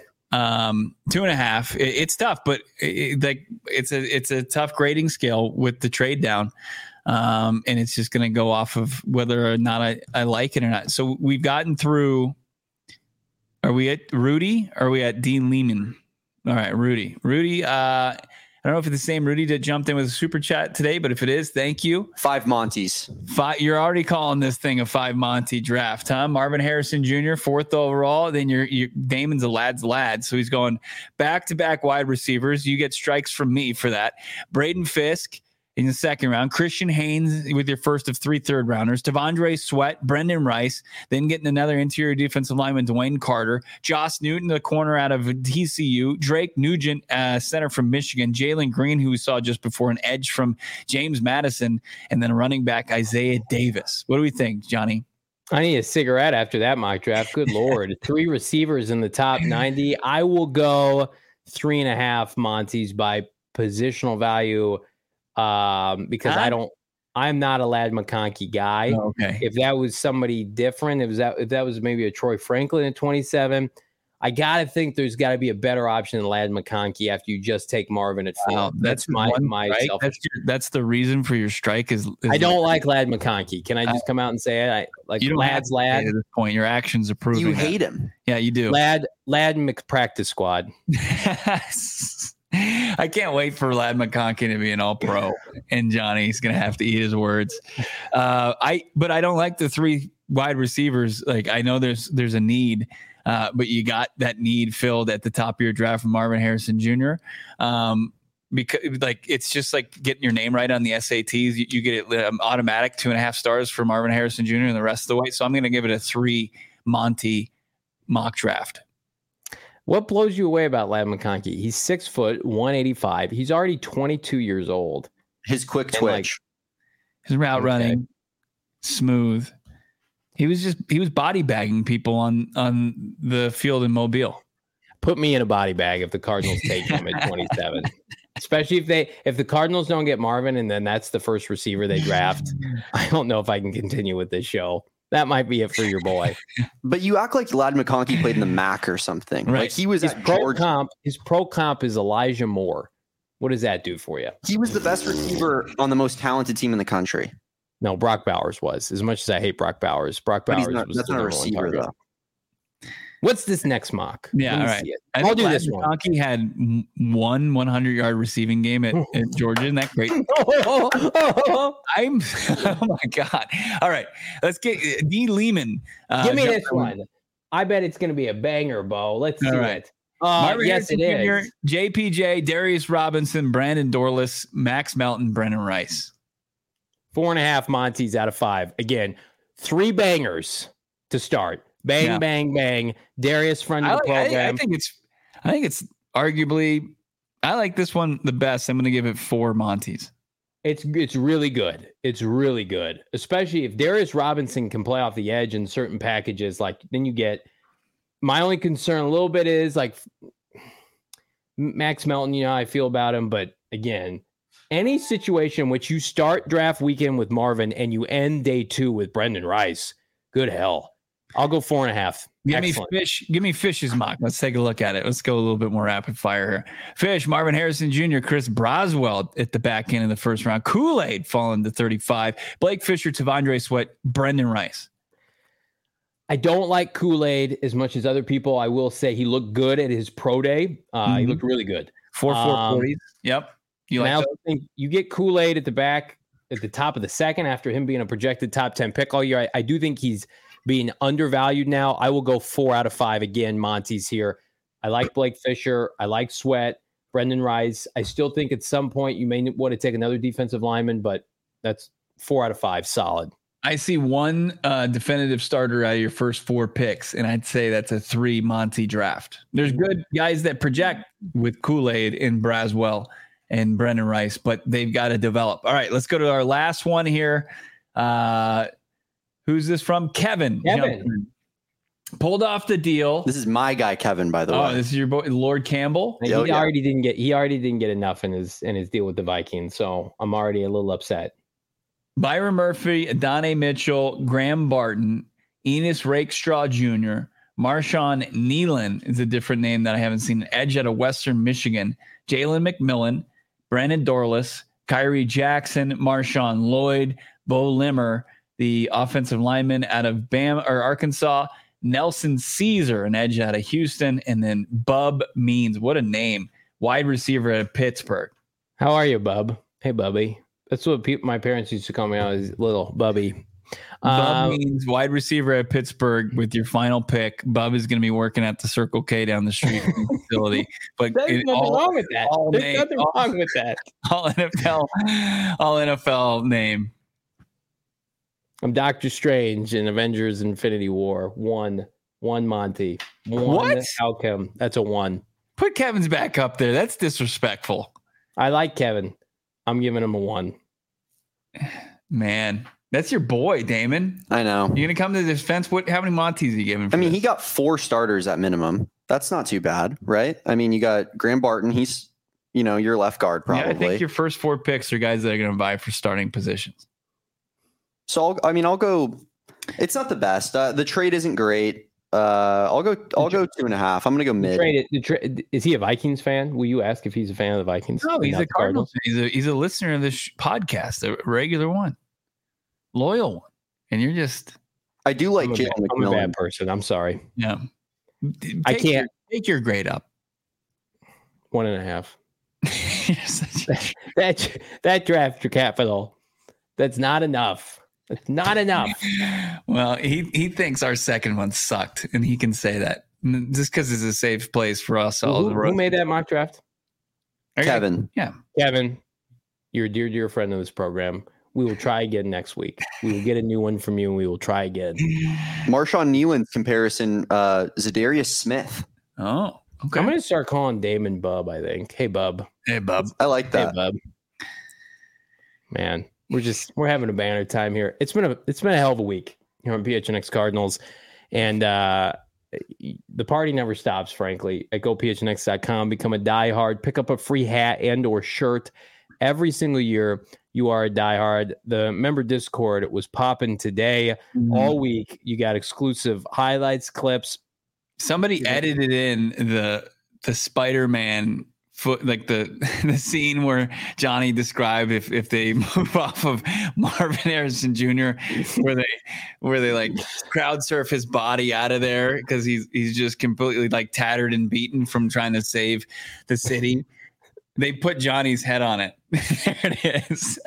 2.5. It's tough, but it's a tough grading scale with the trade down, and it's just going to go off of whether or not I like it or not. So we've gotten through. Are we at Rudy? Or are we at Dean Lehman? All right, Rudy. I don't know if it's the same Rudy that jumped in with a super chat today, but if it is, thank you. 5 Monties. 5. You're already calling this thing a 5 Monty draft, huh? Marvin Harrison Jr., 4th overall. Then Damon's a lad's lad, so he's going back-to-back wide receivers. You get strikes from me for that. Braden Fisk in the 2nd round. Christian Haynes with your first of 3 third-rounders. T'Vondre Sweat, Brendan Rice, then getting another interior defensive lineman, Dwayne Carter. Josh Newton, the corner out of TCU. Drake Nugent, center from Michigan. Jalen Green, who we saw just before, an edge from James Madison. And then running back Isaiah Davis. What do we think, Johnny? I need a cigarette after that mock draft. Good Lord. 3 receivers in the top 90. I will go 3.5 Monties by positional value. Because I'm not a Ladd McConkey guy. Oh, okay. If that was somebody different, if that was maybe a Troy Franklin at 27, I got to think there's got to be a better option than Ladd McConkey after you just take Marvin at 4. Wow, that's my that's the reason for your strike is I don't like Ladd McConkey. Can I just come out and say it? I like you don't Ladd's Ladd. at this point. Your actions are proving you hate him. Yeah, you do. Ladd McPractice squad. I can't wait for Ladd McConkey to be an all-pro, and Johnny's going to have to eat his words. But I don't like the 3 wide receivers. Like, I know there's a need, but you got that need filled at the top of your draft from Marvin Harrison Jr. Because it's just like getting your name right on the SATs. You get it automatic 2.5 stars for Marvin Harrison Jr. and the rest of the way. So I'm going to give it a 3 Monty mock draft. What blows you away about Ladd McConkey? He's 6 foot, 185. He's already 22 years old. His quick twitch. His route running, smooth. He was body bagging people on the field in Mobile. Put me in a body bag if the Cardinals take him at 27. Especially if the Cardinals don't get Marvin and then that's the first receiver they draft. I don't know if I can continue with this show. That might be it for your boy. But you act like Ladd McConkey played in the MAC or something. Right. Like he was his pro comp is Elijah Moore. What does that do for you? He was the best receiver on the most talented team in the country. No, Brock Bowers was. As much as I hate Brock Bowers was that's the not a receiver though. What's this next mock? Yeah, all right. I'll do this one. McConkey had one 100-yard receiving game at Georgia. Isn't that great? Oh my God. All right. Let's get Dean Lehman. Give me this one. I bet it's going to be a banger, Bo. Let's see it. Yes, it is. JPJ, Darius Robinson, Brandon Dorless, Max Melton, Brennan Rice. 4.5 Monty's out of 5. Again, 3 bangers to start. Bang, bang, bang. Darius, friend of the program. I think it's arguably, I like this one the best. I'm going to give it 4 Monty's. It's really good. It's really good, especially if Darius Robinson can play off the edge in certain packages. Like then you get. My only concern a little bit is like Max Melton. You know how I feel about him, but again, any situation in which you start draft weekend with Marvin and you end day 2 with Brendan Rice, good hell. I'll go 4.5. Give me Fish's mock. Let's take a look at it. Let's go a little bit more rapid fire here. Fish, Marvin Harrison Jr., Chris Braswell at the back end of the first round. Kool-Aid falling to 35. Blake Fisher, T'Vondre Sweat, Brendan Rice. I don't like Kool-Aid as much as other people. I will say he looked good at his pro day. He looked really good. 4.40. Yep. I also think you get Kool-Aid at the top of the second after him being a projected top 10 pick all year. I do think he's being undervalued now. I will go 4 out of 5 again. Monty's here. I like Blake Fisher. I like Sweat, Brendan Rice. I still think at some point you may want to take another defensive lineman, but that's 4 out of 5. Solid. I see one definitive starter out of your first 4 picks, and I'd say that's a 3 Monty draft. There's good guys that project with Kool-Aid and Braswell and Brendan Rice, but they've got to develop. All right, let's go to our last one here. Who's this from? Kevin. Pulled off the deal. This is my guy, Kevin, by the way. Oh, this is your boy, Lord Campbell. He already didn't get enough in his deal with the Vikings, so I'm already a little upset. Byron Murphy, Adonai Mitchell, Graham Barton, Enos Rakestraw Jr., Marshawn Nealon is a different name that I haven't seen. Edge out of Western Michigan, Jalen McMillan, Brandon Dorless, Kyrie Jackson, Marshawn Lloyd, Bo Limmer, the offensive lineman out of Arkansas, Nelson Caesar, an edge out of Houston, and then Bub Means. What a name. Wide receiver out of Pittsburgh. How are you, Bub? Hey, Bubby. That's what my parents used to call me when I was little, Bubby. Bub Means, wide receiver at Pittsburgh with your final pick. Bub is going to be working at the Circle K down the street from the facility. But there's nothing wrong with that. There's nothing wrong with that. All NFL name. I'm Doctor Strange in Avengers Infinity War. One Monty. What? Outcome. That's a 1. Put Kevin's back up there. That's disrespectful. I like Kevin. I'm giving him a 1. Man, that's your boy, Damon. I know. You're going to come to the defense. How many Monties are you giving? I mean, he got 4 starters at minimum. That's not too bad, right? I mean, you got Graham Barton. He's, your left guard probably. Yeah, I think your first 4 picks are guys that are going to vie for starting positions. So I'll go. It's not the best. The trade isn't great. I'll go 2.5. I'm going to go mid. Is he a Vikings fan? Will you ask if he's a fan of the Vikings? No, he's a Cardinals fan. He's a listener of this podcast, a regular one, loyal one. And you're just. I do like Jalen McMillan. I'm a bad person. I'm sorry. Yeah. I can't take your grade up. 1.5. that draft capital. That's not enough. It's not enough. Well, he thinks our second one sucked, and he can say that just because it's a safe place for us. Who made that mock draft? Kevin. Yeah. Kevin, you're a dear friend of this program. We will try again next week. We will get a new one from you, and we will try again. Marshawn Nealon's comparison, Zadarius Smith. Oh, okay. I'm going to start calling Damon Bub, I think. Hey, Bub. Hey, Bub. I like that. Hey, Bub. Man. We're having a banner time here. It's been a hell of a week here on PHNX Cardinals, and the party never stops. Frankly, at gophnx.com, become a diehard, pick up a free hat and or shirt every single year. You are a diehard. The member Discord was popping today. All week. You got exclusive highlights, clips. Somebody edited in the Spider-Man foot, like the scene where Johnny described if they move off of Marvin Harrison Jr., where they like crowd surf his body out of there because he's just completely like tattered and beaten from trying to save the city. They put Johnny's head on it. There it is.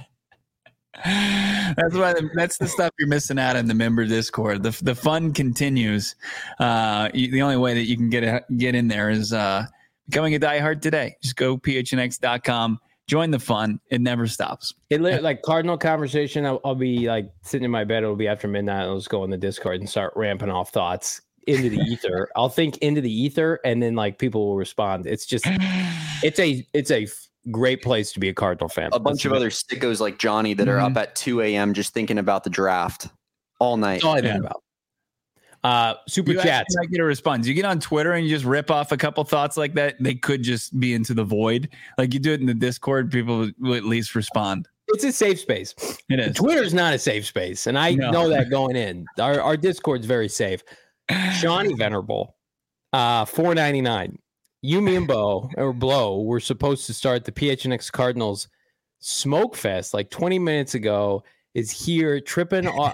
That's the stuff you're missing out in the member Discord. The fun continues. The only way that you can get in there is becoming a diehard today. Just go phnx.com, Join the fun. It never stops. Like Cardinal conversation. I'll be like sitting in my bed. It'll be after midnight. I'll just go in the Discord and start ramping off thoughts into the ether. I'll think into the ether, and then like people will respond. It's just, it's a great place to be a Cardinal fan. A bunch of other sickos like Johnny that are up at 2 a.m. just thinking about the draft all night. That's all I think about. Super chats. I get a response. You get on Twitter and you just rip off a couple thoughts like that. They could just be into the void. Like you do it in the Discord, people will at least respond. It's a safe space. It is. Twitter's not a safe space, and I know that going in. Our Discord's very safe. Shawnee Venerable, $4.99. You, me, and Blow were supposed to start the PHNX Cardinals Smoke Fest like 20 minutes ago. Is he here tripping off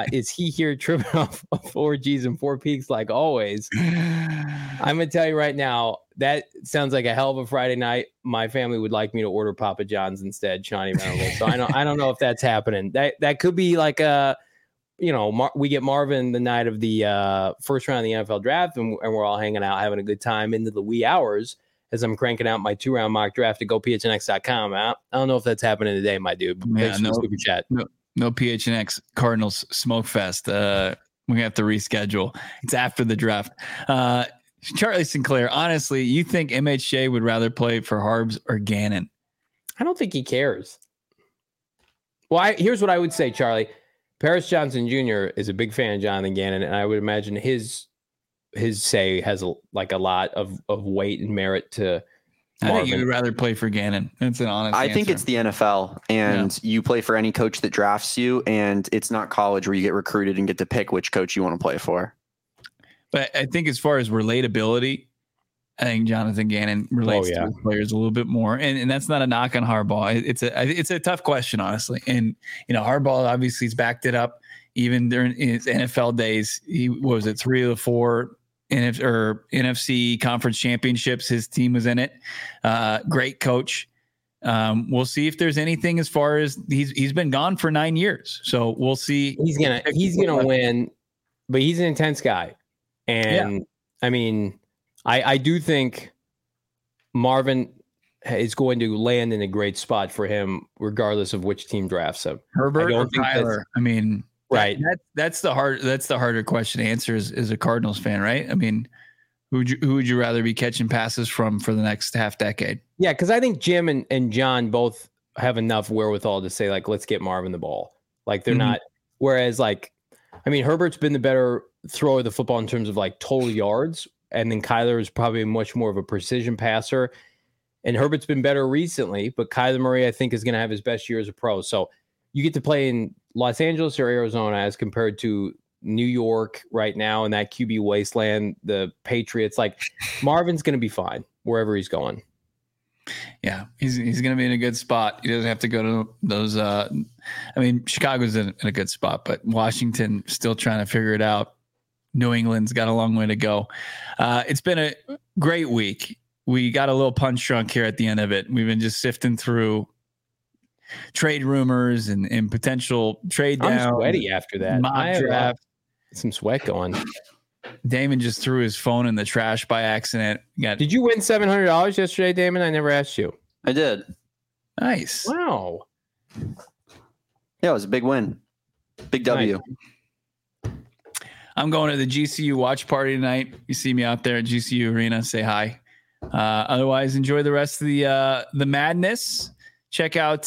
4 G's and 4 Peaks like always? I'm gonna tell you right now, that sounds like a hell of a Friday night. My family would like me to order Papa John's instead, Shawnee Venerable. So I don't know if that's happening. That could be like a, we get Marvin the night of the first round of the NFL draft, and we're all hanging out, having a good time into the wee hours as I'm cranking out my 2-round mock draft at gophnx.com. I don't know if that's happening today, my dude. Thanks for the super chat. No PHNX Cardinals Smoke Fest. We have to reschedule. It's after the draft. Charlie Sinclair, honestly, you think MHJ would rather play for Harbs or Gannon? I don't think he cares. Well, here's what I would say, Charlie. Paris Johnson Jr. is a big fan of Jonathan Gannon, and I would imagine his say has a lot of weight and merit to Marvin. I think you would rather play for Gannon. That's an honest answer. I think it's the NFL, and you play for any coach that drafts you, and it's not college where you get recruited and get to pick which coach you want to play for. But I think as far as relatability, I think Jonathan Gannon relates to his players a little bit more, and that's not a knock on Harbaugh. It's a tough question, honestly. And Harbaugh obviously has backed it up even during his NFL days. He 3 of the 4 NFC conference championships. His team was in it. Great coach. We'll see if there's anything as far as he's been gone for 9 years. So we'll see. He's gonna win, but he's an intense guy, and I mean. I do think Marvin is going to land in a great spot for him, regardless of which team drafts him. Herbert or Kyler? I mean, right. That's the harder question to answer as a Cardinals fan, right? I mean, who would you rather be catching passes from for the next half decade? Yeah, because I think Jim and John both have enough wherewithal to say, like, let's get Marvin the ball. Like, they're not. Whereas, like, I mean, Herbert's been the better thrower of the football in terms of like total yards. And then Kyler is probably much more of a precision passer. And Herbert's been better recently, but Kyler Murray, I think, is going to have his best year as a pro. So you get to play in Los Angeles or Arizona as compared to New York right now in that QB wasteland, the Patriots. Like, Marvin's going to be fine wherever he's going. Yeah, he's going to be in a good spot. He doesn't have to go to those. I mean, Chicago's in a good spot, but Washington still trying to figure it out. New England's got a long way to go. It's been a great week. We got a little punch drunk here at the end of it. We've been just sifting through trade rumors and potential trade down. I'm sweaty after that. Mock draft. Some sweat going. Damon just threw his phone in the trash by accident. Did you win $700 yesterday, Damon? I never asked you. I did. Nice. Wow. Yeah, it was a big win. Big W. Nice. I'm going to the GCU watch party tonight. You see me out there at GCU Arena, say hi. Otherwise, enjoy the rest of the madness. Check out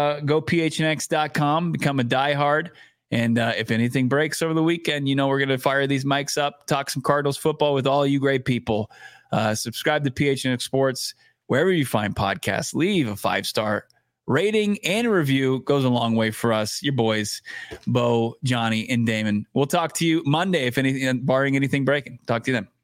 gophnx.com, become a diehard. And if anything breaks over the weekend, we're going to fire these mics up, talk some Cardinals football with all you great people. Subscribe to PHNX Sports, wherever you find podcasts. Leave a 5-star rating and a review. Goes a long way for us, your boys, Bo, Johnny, and Damon. We'll talk to you Monday, if anything, barring anything breaking. Talk to you then.